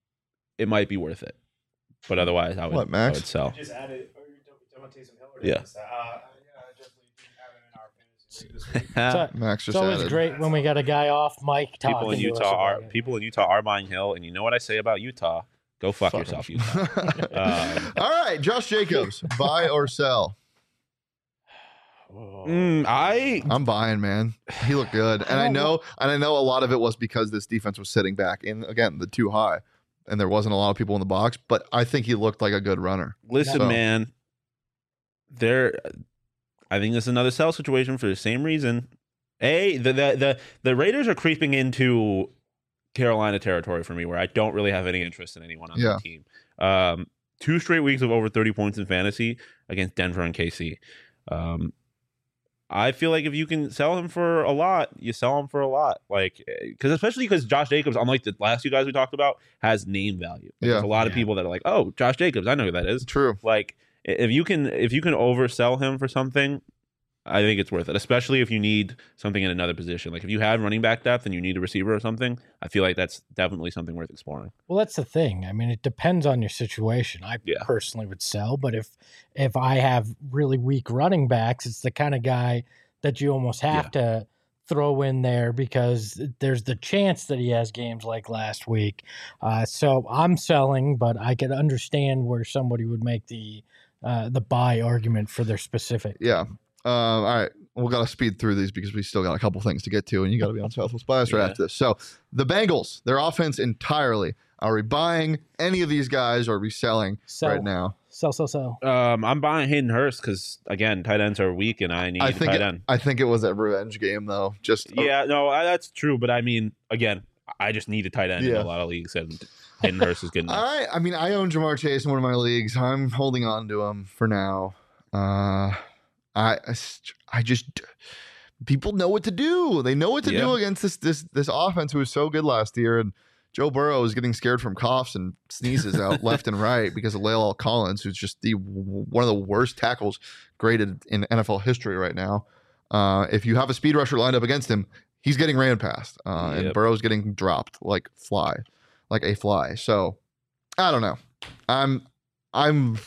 it might be worth it. But otherwise, I would, What, Max? I would sell. Just added, or you're talking about Taysom Hill? Or Yeah. did I miss that? Uh, yeah, I definitely didn't have him in our fantasy league this week. So, Max it's just always added. great when we got a guy off mic talking people in to us Utah are about it. people in Utah are buying Hill, and you know what I say about Utah? Go fuck, Fuck yourself, him. Utah. Um, All right, Josh Jacobs, buy or sell? Mm, I I'm buying, man. He looked good, and I, don't know, and I know a lot of it was because this defense was sitting back in again the too high, and there wasn't a lot of people in the box. But I think he looked like a good runner. listen, So- man. There, I think this is another sell situation for the same reason. A the the the, the Raiders are creeping into Carolina territory for me, where I don't really have any interest in anyone on Yeah. the team. Um, two straight weeks of over thirty points in fantasy against Denver and K C. Um, I feel like if you can sell him for a lot, you sell him for a lot. Like, because especially because Josh Jacobs, unlike the last two guys we talked about, has name value. Like, Yeah. There's a lot of Yeah. people that are like, oh, Josh Jacobs, I know who that is. True. Like, if you can if you can oversell him for something, I think it's worth it, especially if you need something in another position. Like if you have running back depth and you need a receiver or something, I feel like that's definitely something worth exploring. Well, that's the thing. I mean, it depends on your situation. I Yeah. personally would sell, but if if I have really weak running backs, it's the kind of guy that you almost have to throw in there because there's the chance that he has games like last week. Uh, so I'm selling, but I could understand where somebody would make the uh, the buy argument for their specific. Yeah. Um, all right. We've got to speed through these because we still got a couple things to get to, and you got to be on Southwest Bias right Yeah. after this. So the Bengals, their offense entirely. Are we buying any of these guys or are we selling Sell. right now? Sell, sell, sell. Um, I'm buying Hayden Hurst because again, tight ends are weak, and I need I a think tight it, end. I think it was a revenge game though. Just Yeah, no, I, that's true. But I mean, again, I just need a tight end in Yeah. a lot of leagues, and Hayden Hurst is good enough. I I mean I own Jamar Chase in one of my leagues. I'm holding on to him for now. Uh, I I just people know what to do. They know what to Yeah. do against this this this offense who was so good last year, and Joe Burrow is getting scared from coughs and sneezes out left and right because of Lael Collins, who's just the one of the worst tackles graded in N F L history right now. Uh, if you have a speed rusher lined up against him, he's getting ran past, uh, and Yep. Burrow's getting dropped like fly, like a fly. So I don't know. I'm I'm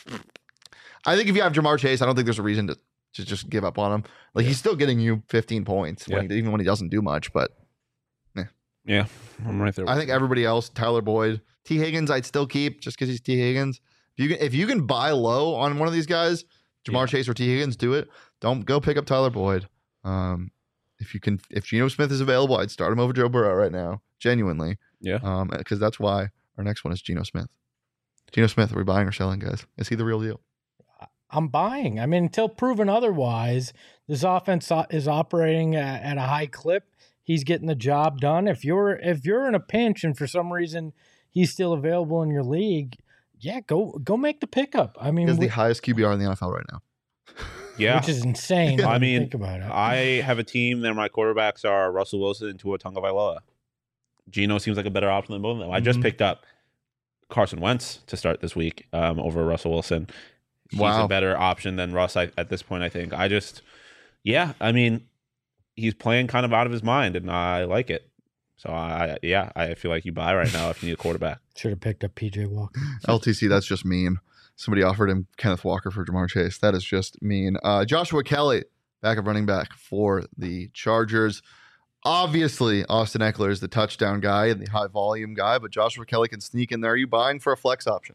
I think if you have Jamar Chase, I don't think there's a reason to, to just give up on him. Like he's still getting you fifteen points, when he, even when he doesn't do much. But Yeah, I'm right there. I think everybody else, Tyler Boyd, T Higgins, I'd still keep just because he's T Higgins. If you can, if you can buy low on one of these guys, Jamar Yeah. Chase or T Higgins, do it. Don't go pick up Tyler Boyd. Um, if you can, if Geno Smith is available, I'd start him over Joe Burrow right now, genuinely. Yeah. Um, because that's why our next one is Geno Smith. Geno Smith, are we buying or selling, guys? Is he the real deal? I'm buying. I mean, until proven otherwise, this offense o- is operating at, at a high clip. He's getting the job done. If you're if you're in a pinch and for some reason he's still available in your league, yeah, go go make the pickup. I mean, He has the whi- highest Q B R in the N F L right now. Yeah. which is insane. Yeah. when I you mean, think about it. I have a team that my quarterbacks are Russell Wilson and Tua Tagovailoa. Geno seems like a better option than both of them. I just Mhm. picked up Carson Wentz to start this week um, over Russell Wilson. He's Wow. a better option than Russ I, at this point, I think. I just, yeah, I mean, he's playing kind of out of his mind, and I like it. So, I yeah, I feel like you buy right now if you need a quarterback. Should have picked up P J Walker. L T C, that's just mean. Somebody offered him Kenneth Walker for Jamar Chase. That is just mean. Uh, Joshua Kelly, backup running back for the Chargers. Obviously, Austin Eckler is the touchdown guy and the high volume guy, but Joshua Kelly can sneak in there. Are you buying for a flex option?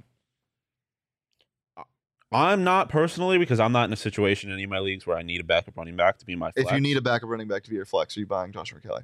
I'm not personally because I'm not in a situation in any of my leagues where I need a backup running back to be my flex. If you need a backup running back to be your flex, are you buying Joshua Kelly?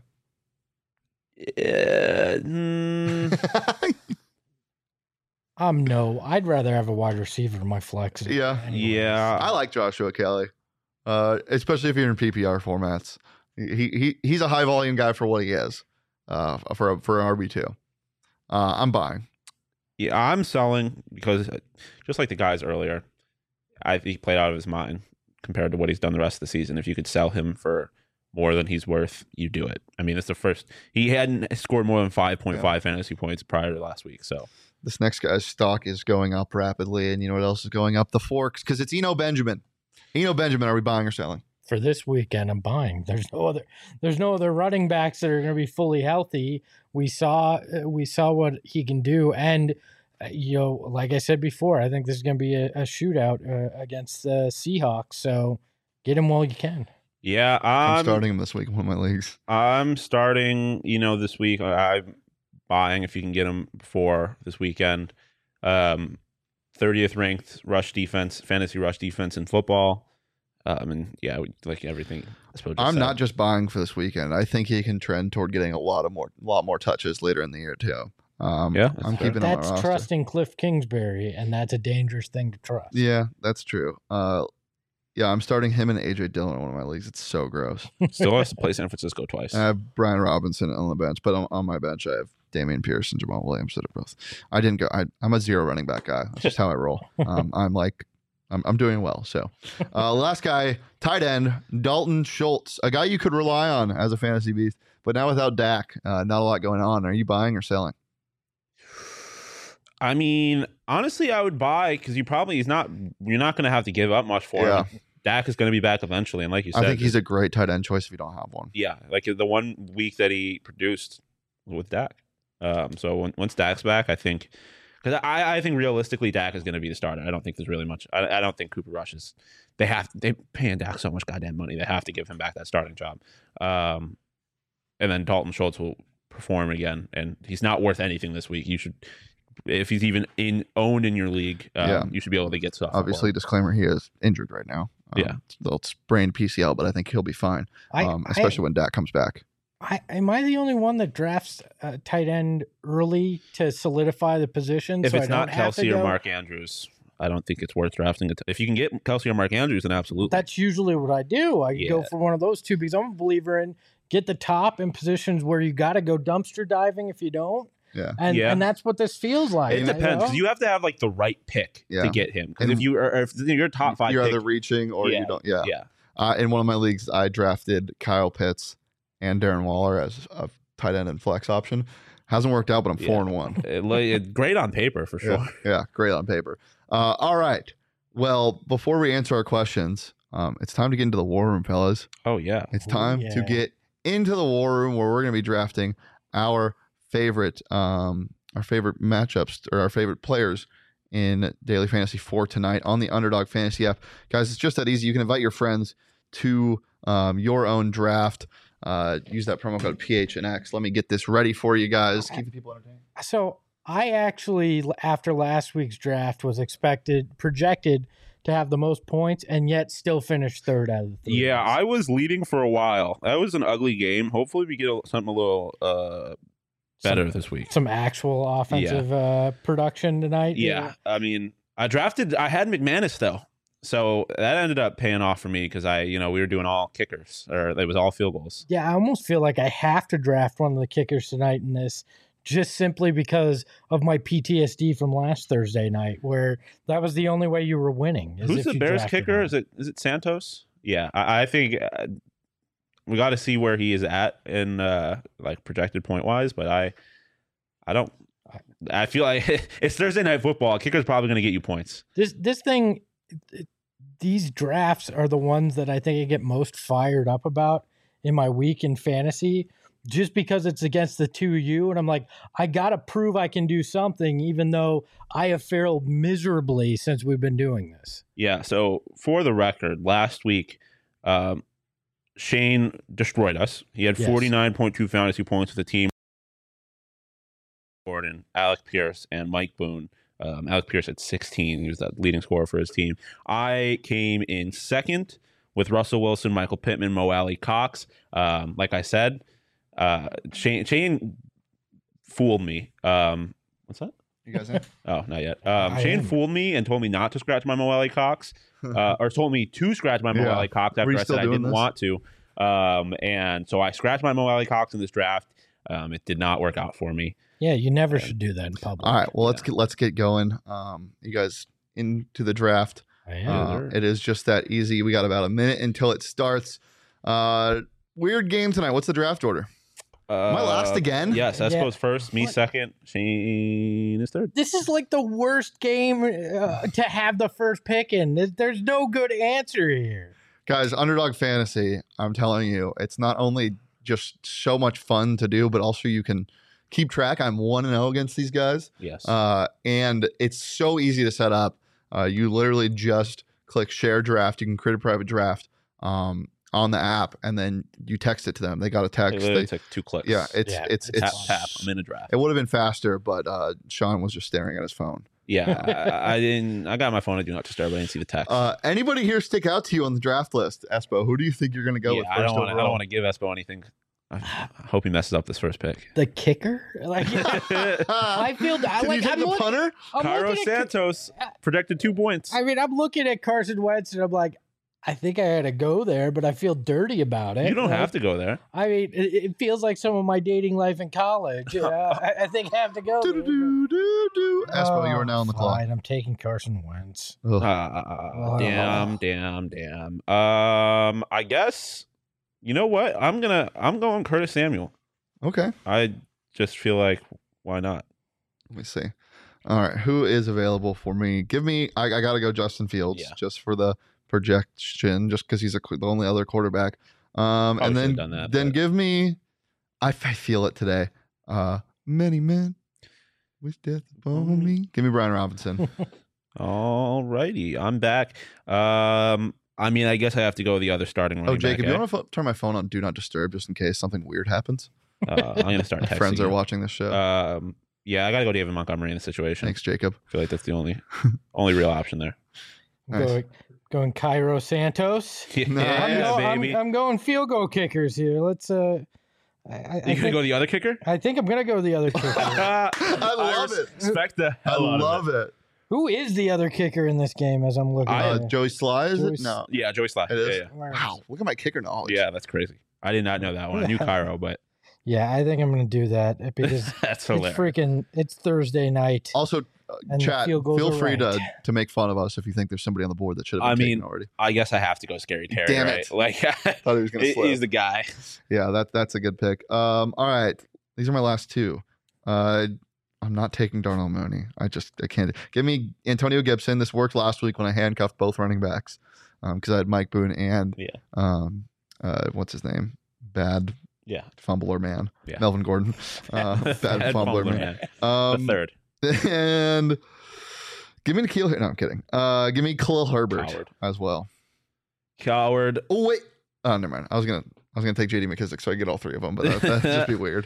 Uh, mm, Um, no, I'd rather have a wide receiver in my flex. Yeah. anyways. Yeah. I like Joshua Kelly, uh, especially if you're in P P R formats. He he he's a high volume guy for what he is, uh, for a, for an R B two. Uh, I'm buying. Yeah, I'm selling because uh, just like the guys earlier, I think he played out of his mind compared to what he's done the rest of the season. If you could sell him for more than he's worth, you do it. I mean, it's the first he hadn't scored more than five point five fantasy points prior to last week. So This next guy's stock is going up rapidly, and you know what else is going up? The forks, because it's Eno Benjamin. Eno Benjamin, are we buying or selling? For this weekend, I'm buying. There's no other. There's no other running backs that are going to be fully healthy. We saw. uh, We saw what he can do, and uh, you know, like I said before, I think this is going to be a, a shootout uh, against the Seahawks. So get him while you can. yeah, I'm I'm starting him this week in one of my leagues. I'm starting. You know, this week I- I'm buying if you can get him before this weekend. Um, thirtieth ranked rush defense, fantasy rush defense in football. Um, and yeah, we- like everything. I suppose I'm not just buying for this weekend. I think he can trend toward getting a lot of more, lot more touches later in the year too. Um, Yeah, that's I'm fair. keeping him on That's my roster. trusting Cliff Kingsbury, and that's a dangerous thing to trust. Yeah, that's true. Uh, yeah, I'm starting him and A J Dillon in one of my leagues. It's so gross. Still has to play San Francisco twice. I have Brian Robinson on the bench, but on, on my bench I have Damian Pierce and Jamal Williams that are both. I didn't go. I, I'm a zero running back guy. That's just how I roll. Um, I'm like, I'm, I'm doing well. So, uh, last guy, tight end Dalton Schultz, a guy you could rely on as a fantasy beast, but now without Dak, uh, not a lot going on. Are you buying or selling? I mean, honestly, I would buy because you probably he's not. You're not going to have to give up much for Yeah. him. Dak is going to be back eventually, and like you I said, think he's a great tight end choice if you don't have one. yeah, like the one week that he produced with Dak. Um, so when, once Dak's back, I think because I, I think realistically Dak is going to be the starter. I don't think there's really much. I, I don't think Cooper Rush is. They have they paying Dak so much goddamn money. They have to give him back that starting job. Um, and then Dalton Schultz will perform again, and he's not worth anything this week. You should. If he's even in owned in your league, um, Yeah. you should be able to get stuff. Obviously, disclaimer: he is injured right now. Um, Yeah. they'll sprain P C L, but I think he'll be fine. I, Um, especially when Dak comes back. I, I, am I the only one that drafts uh, tight end early to solidify the position? If so it's I don't not have to Kelsey or go? Mark Andrews, I don't think it's worth drafting it. If you can get Kelsey or Mark Andrews, then absolutely. That's usually what I do. I go Yeah. for one of those two because I'm a believer in get the top in positions where you got to go dumpster diving if you don't. Yeah. And Yeah. and that's what this feels like. It you depends know? because you have to have like the right pick Yeah. to get him. Because And- if you are, if you're top five, You're pick, either reaching or Yeah. you don't. Yeah. yeah, Uh, in one of my leagues, I drafted Kyle Pitts and Darren Waller as a tight end and flex option. Hasn't worked out, but I'm Yeah. four and one. It- like, it- great on paper for sure. Yeah, yeah, great on paper. Uh, all right. Well, before we answer our questions, um, it's time to get into the war room, fellas. Oh yeah, It's Ooh, time to yeah. get into the war room where we're going to be drafting our favorite, um, our favorite matchups or our favorite players in Daily Fantasy for tonight on the Underdog Fantasy app. Guys, it's just that easy. You can invite your friends to um, your own draft. Uh, use that promo code P H N X. Let me get this ready for you guys. Keep the people entertained. So I actually, after last week's draft, was expected, projected to have the most points and yet still finish third out of the three. yeah. I was leading for a while. That was an ugly game. Hopefully, we get a, something a little uh, better Some- this week. Some actual offensive uh, production tonight. Yeah, I mean, I drafted. I had McManus though, so that ended up paying off for me because I, you know, we were doing all kickers or it was all field goals. Yeah, I almost feel like I have to draft one of the kickers tonight in this just simply because of my P T S D from last Thursday night where that was the only way you were winning. is Who's if the you Bears drafted kicker? him. Is it is it Santos? Yeah, I, I think uh, we got to see where he is at in uh, like projected point wise, but I, I don't. I feel like it's Thursday night football. Kicker's probably going to get you points. This this thing, these drafts are the ones that I think I get most fired up about in my week in fantasy, just because it's against the two U, and I'm like, I gotta prove I can do something, even though I have failed miserably since we've been doing this. Yeah. So for the record, last week, um, Shane destroyed us. He had Yes. forty-nine point two fantasy points with the team. Gordon, Alec Pierce, and Mike Boone. Um, Alec Pierce at sixteen. He was the leading scorer for his team. I came in second with Russell Wilson, Michael Pittman, Mo Alley, Cox. Um, like I said, uh, Shane, Shane fooled me. Um, what's that? You guys in? Oh, not yet. Um, I Shane am. fooled me and told me not to scratch my Mo Alley Cox, uh, or told me to scratch my Mo Yeah. Alley Cox Were after you I still said I doing didn't this? want to. Um, and so I scratched my Mo Alley Cox in this draft. Um, it did not work out for me. Yeah, you never should do that in public. All right. Well, let's Yeah. get let's get going. Um, you guys into the draft. I am. Uh, sir. it is just that easy. We got about a minute until it starts. Uh, weird game tonight. What's the draft order? Am I last Uh, again? Yes, S Yeah. goes first, me What? second, Shane is third. This is like the worst game uh, to have the first pick in. There's, there's no good answer here. Guys, Underdog Fantasy, I'm telling you, it's not only just so much fun to do, but also you can keep track. I'm one and oh against these guys. Yes. Uh, and it's so easy to set up. Uh, you literally just click share draft. You can create a private draft um, on the app, and then you text it to them. They got a it text. literally They, took two clicks. yeah, it's Yeah, it's it's it's tap tap. I'm in a draft. it would have been faster, but uh, Sean was just staring at his phone. Yeah, I, I didn't. I got my phone to do not disturb. I didn't see the text. Uh, anybody here stick out to you on the draft list, Espo? Who do you think you're going to go yeah, with I first don't want. I overall? don't want to give Espo anything. I hope he messes up this first pick. The kicker, like I feel I Did like you take I'm the looking, punter? I'm Cairo looking at- Santos projected two points. I mean, I'm looking at Carson Wentz and I'm like, I think I had to go there, but I feel dirty about it. You don't Like, have to go there. I mean, it, it feels like some of my dating life in college. You know? I, I think I have to go. there. Do-do-do-do-do. Espo, you are now on the Oh, clock. fine, I'm taking Carson Wentz. Ugh. Uh, damn, damn, damn. Um, I guess you know what? I'm gonna. I'm going Curtis Samuel. Okay, I just feel like why not? let me see. All right, who is available for me? Give me. I, I got to go Justin Fields Yeah. just for the projection, just because he's a, qu- the only other quarterback. Um, Probably and then should've done that, then but- give me. I, f- I feel it today. Uh, many men wish death upon me. Give me Brian Robinson. All righty, I'm back. Um, I mean, I guess I have to go the other starting running Oh, Jacob, back. you eh? want to turn my phone on Do Not Disturb just in case something weird happens? Uh, I'm gonna start My texting. friends are you. watching this show. Um, yeah, I gotta go David Montgomery in the situation. Thanks, Jacob. I feel like that's the only only real option there. I'm Nice. going, going Cairo Santos. Yeah, No, I'm, Yeah, go- I'm- baby. I'm going field goal kickers here. Let's. uh I, I, I you gonna think, go the other kicker? I think I'm gonna go the other kicker. I love it. Respect the I hell out love of it. it. Who is the other kicker in this game? As I'm looking I- Uh, at it? Joey Sly, is Joey it? No. Yeah, Joey Sly. It is? Yeah, Wow, look at my kicker knowledge. yeah. yeah, that's crazy. I did not know that one. I knew Cairo, but Yeah, I think I'm gonna do that because that's it's hilarious. freaking. It's Thursday night. Also, uh, And the chat, field goals feel are free to, ranked. to make fun of us if you think there's somebody on the board that should have I been mean, taken already. I guess I have to go Scary Terry. Damn right? it. Like Thought he was going to he- slip. he's the guy. Yeah, that that's a good pick. Um, all right, these are my last two. Uh, I'm not taking Darnell Mooney. I just I can't. Give me Antonio Gibson. This worked last week when I handcuffed both running backs because I had Mike Boone and Yeah. um, uh, what's his name? Bad Yeah. fumbler man, Yeah. Melvin Gordon. Uh, bad, Bad fumbler, fumbler, man. man. Um, The third. and give me Nikhil. No, I'm kidding. Uh, give me Khalil Herbert Coward. as well. Coward. Oh wait. Oh, never mind. I was gonna I was gonna take J D McKissick, so I get all three of them, but that, that'd just be weird.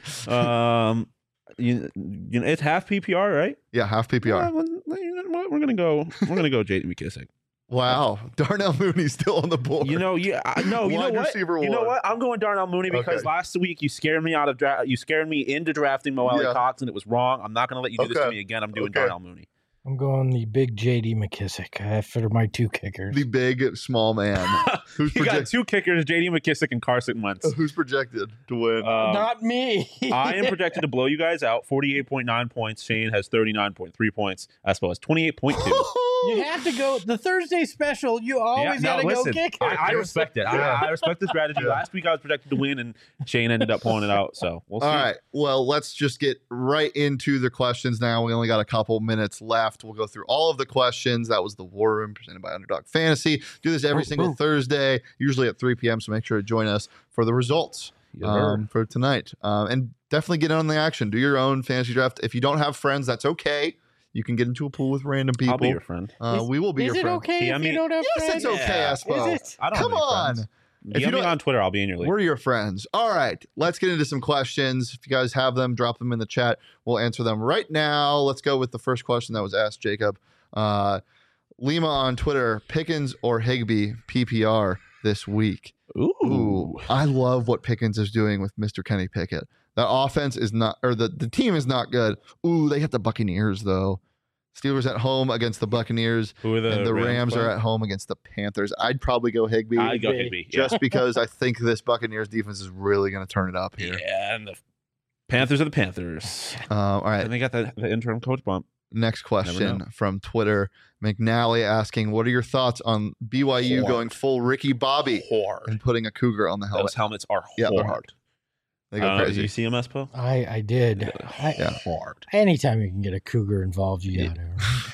Um, you, you know, it's half P P R, right? Yeah, half P P R. Yeah, well, you know what? We're gonna go. We're gonna go J D McKissick. Wow, Darnell Mooney's still on the board. You know, you I, no, you know Wide what? receiver You know one. what? I'm going Darnell Mooney because Okay. last week you scared me out of draft. You scared me into drafting Mo Yeah. Cox, and it was wrong. I'm not going to let you do this to Okay. me again. I'm doing Okay. Darnell Mooney. I'm going the big J D McKissick uh, for my two kickers. the big small man who's You got project- two kickers: J D McKissick and Carson Wentz. who's projected to win. Um, Not me. I am projected to blow you guys out. forty-eight point nine points. Shane has thirty-nine point three points. Espo has twenty-eight point two. You have to go the Thursday special. You always Yeah, no, gotta listen, go kickers. I, I respect it. Yeah. I, I respect the strategy. Yeah. Last week I was projected to win, and Shane ended up pulling it out. So we'll see. All right. Well, let's just get right into the questions now. We only got a couple minutes left. We'll go through all of the questions. That was the War Room presented by Underdog Fantasy. Do this every Ooh, single ooh. Thursday, usually at three p.m. So make sure to join us for the results Yes, um, for tonight. Um, and definitely get in on the action. Do your own fantasy draft. If you don't have friends, that's okay. You can get into a pool with random people. I'll be your friend. uh, Is- we will be Is your it friend. okay Yeah, I if mean- you don't have Yes, friends? it's okay, Yeah. Espo. Is it? I don't Come have any on. friends. If D M you me don't- on Twitter. I'll be in your league. We're your friends. All right, let's get into some questions. If you guys have them, drop them in the chat. We'll answer them right now. Let's go with the first question that was asked, Jacob. Uh, Lima on Twitter, Pickens or Higbee P P R this week? Ooh. Ooh, I love what Pickens is doing with Mister Kenny Pickett. That offense is not, or the, the team is not good. Ooh, they hit the Buccaneers, though. Steelers at home against the Buccaneers, Who are the and the Rams, are playing? at home against the Panthers. I'd probably go Higbee. I go Higbee. Higbee. Yeah. Just because I think this Buccaneers defense is really going to turn it up here. Yeah, and the Panthers are the Panthers. Um, all right, And they got the, the interim coach bump. next question know. from Twitter. McNally asking, what are your thoughts on B Y U Hard. going full Ricky Bobby Hard. and putting a cougar on the helmet? Those helmets are Yeah, they're hard. hard. They go Uh, Did crazy. you see him, Espo? I I did. I, Yeah. Hard. Anytime you can get a cougar involved, you Yeah. got to.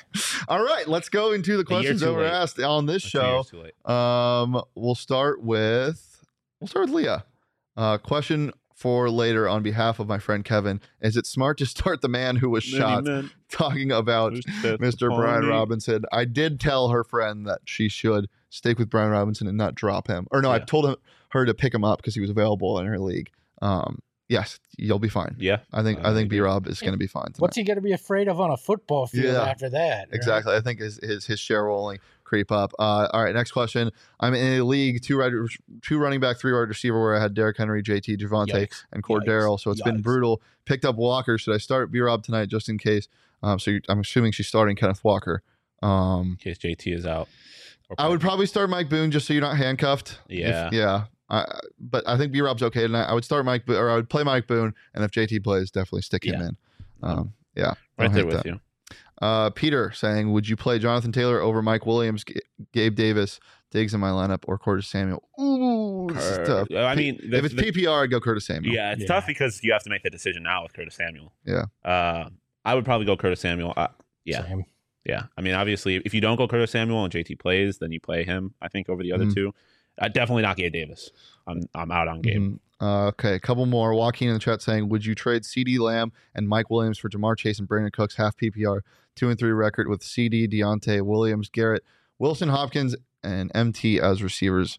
All right, let's go into the A year questions too that were late. asked on this Two show. years too late. Um, we'll start with we'll start with Leah. Uh, question for later on behalf of my friend Kevin: is it smart to start the man who was shot? Many men Talking about who set Mister upon Brian me. Robinson. I did tell her friend that she should stick with Brian Robinson and not drop him. Or no, I Yeah. told him, her to pick him up because he was available in her league. Um, Yes, you'll be fine. Yeah, I think Uh, I I think agree. B Rob is going to be fine. Tonight. What's he going to be afraid of on a football field Yeah, after that? right? Exactly. I think his his, his share will only creep up. Uh, all right, next question. I'm in a league two wide, two running back, three wide receiver where I had Derrick Henry, J T, Javante, Yikes. and Cordero. Yikes. So it's been Yikes. brutal. Picked up Walker. Should I start B Rob tonight just in case? Um, so you, I'm assuming she's starting Kenneth Walker. Um, in case J T is out. Or I would probably start Mike Boone just so you're not handcuffed. Yeah. If, yeah. I, but I think B Rob's okay tonight. I would start Mike, Bo- or I would play Mike Boone, and if J T plays, definitely stick him Yeah. in. Um, yeah, I right don't there hate with that. you. Uh, Peter saying, would you play Jonathan Taylor over Mike Williams, G- Gabe Davis, Diggs in my lineup, or Curtis Samuel? Ooh, this is tough. Cur- I mean, the- if it's the- P P R, I'd go Curtis Samuel. Yeah, it's Yeah. tough because you have to make the decision now with Curtis Samuel. Yeah. Uh, I would probably go Curtis Samuel. Uh, yeah. Same. Yeah. I mean, obviously, if you don't go Curtis Samuel and J T plays, then you play him, I think, over the other Mhm. two. Uh, definitely not Gabe Davis. I'm I'm out on Gabe. Mhm. Uh, okay, a couple more. Joaquin in the chat saying, would you trade C D Lamb and Mike Williams for Jamar Chase and Brandon Cooks, half P P R, two and three record with C D, Deontay, Williams, Garrett, Wilson, Hopkins, and M T as receivers?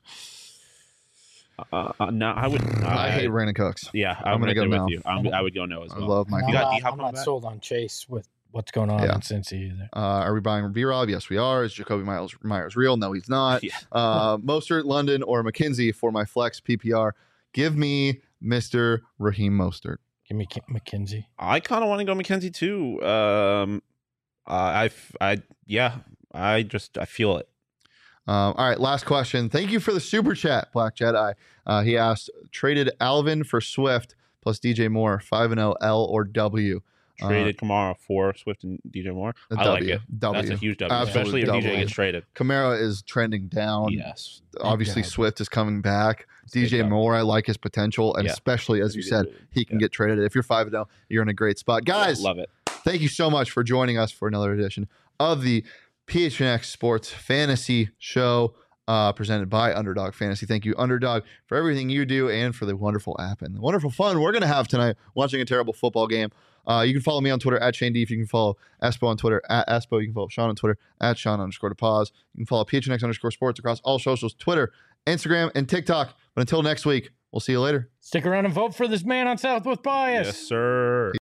Uh, uh, no, I would. I, I, hate Brandon Cooks. Yeah, I'm, I'm gonna right go there now. with you. I'm, I would go no as I well. love Mike. I'm You got not, D-Hop I'm coming not back? sold on Chase with what's going on Yeah. in Cincy either. Uh, are we buying B Rob? Yes, we are. Is Jacoby Myers, Myers real? No, he's not. Yeah. Uh, Mostert, London, or McKenzie for my flex P P R. Give me Mister Raheem Mostert. Give me K- McKenzie. I kind of want to go McKenzie too. Um, I, I, I, yeah, I just I feel it. Um, all right, last question. Thank you for the super chat, Black Jedi. Uh, he asked, traded Alvin for Swift plus D J Moore, five and oh, L or W? Uh, Traded Kamara for Swift and D J Moore. a I like W. it. W. That's a huge W, Absolute especially if D J W. gets traded. Kamara is trending down. Yes. Obviously, Big dub. Swift is coming back. D J Big dub. Moore, I like his potential, and Yeah. especially as you said, he can Yeah. get traded. If you're five and oh, you're in a great spot, guys. Love it. Thank you so much for joining us for another edition of the P H N X Sports Fantasy Show, uh, presented by Underdog Fantasy. Thank you, Underdog, for everything you do and for the wonderful app and the wonderful fun we're going to have tonight watching a terrible football game. Uh, you can follow me on Twitter at Shane Deef. You can follow Espo on Twitter at Espo. You can follow Sean on Twitter at Sean underscore to pause. You can follow P H N X underscore sports across all socials, Twitter, Instagram, and TikTok. But until next week, we'll see you later. Stick around and vote for this man on Southwest Bias. Yes, sir.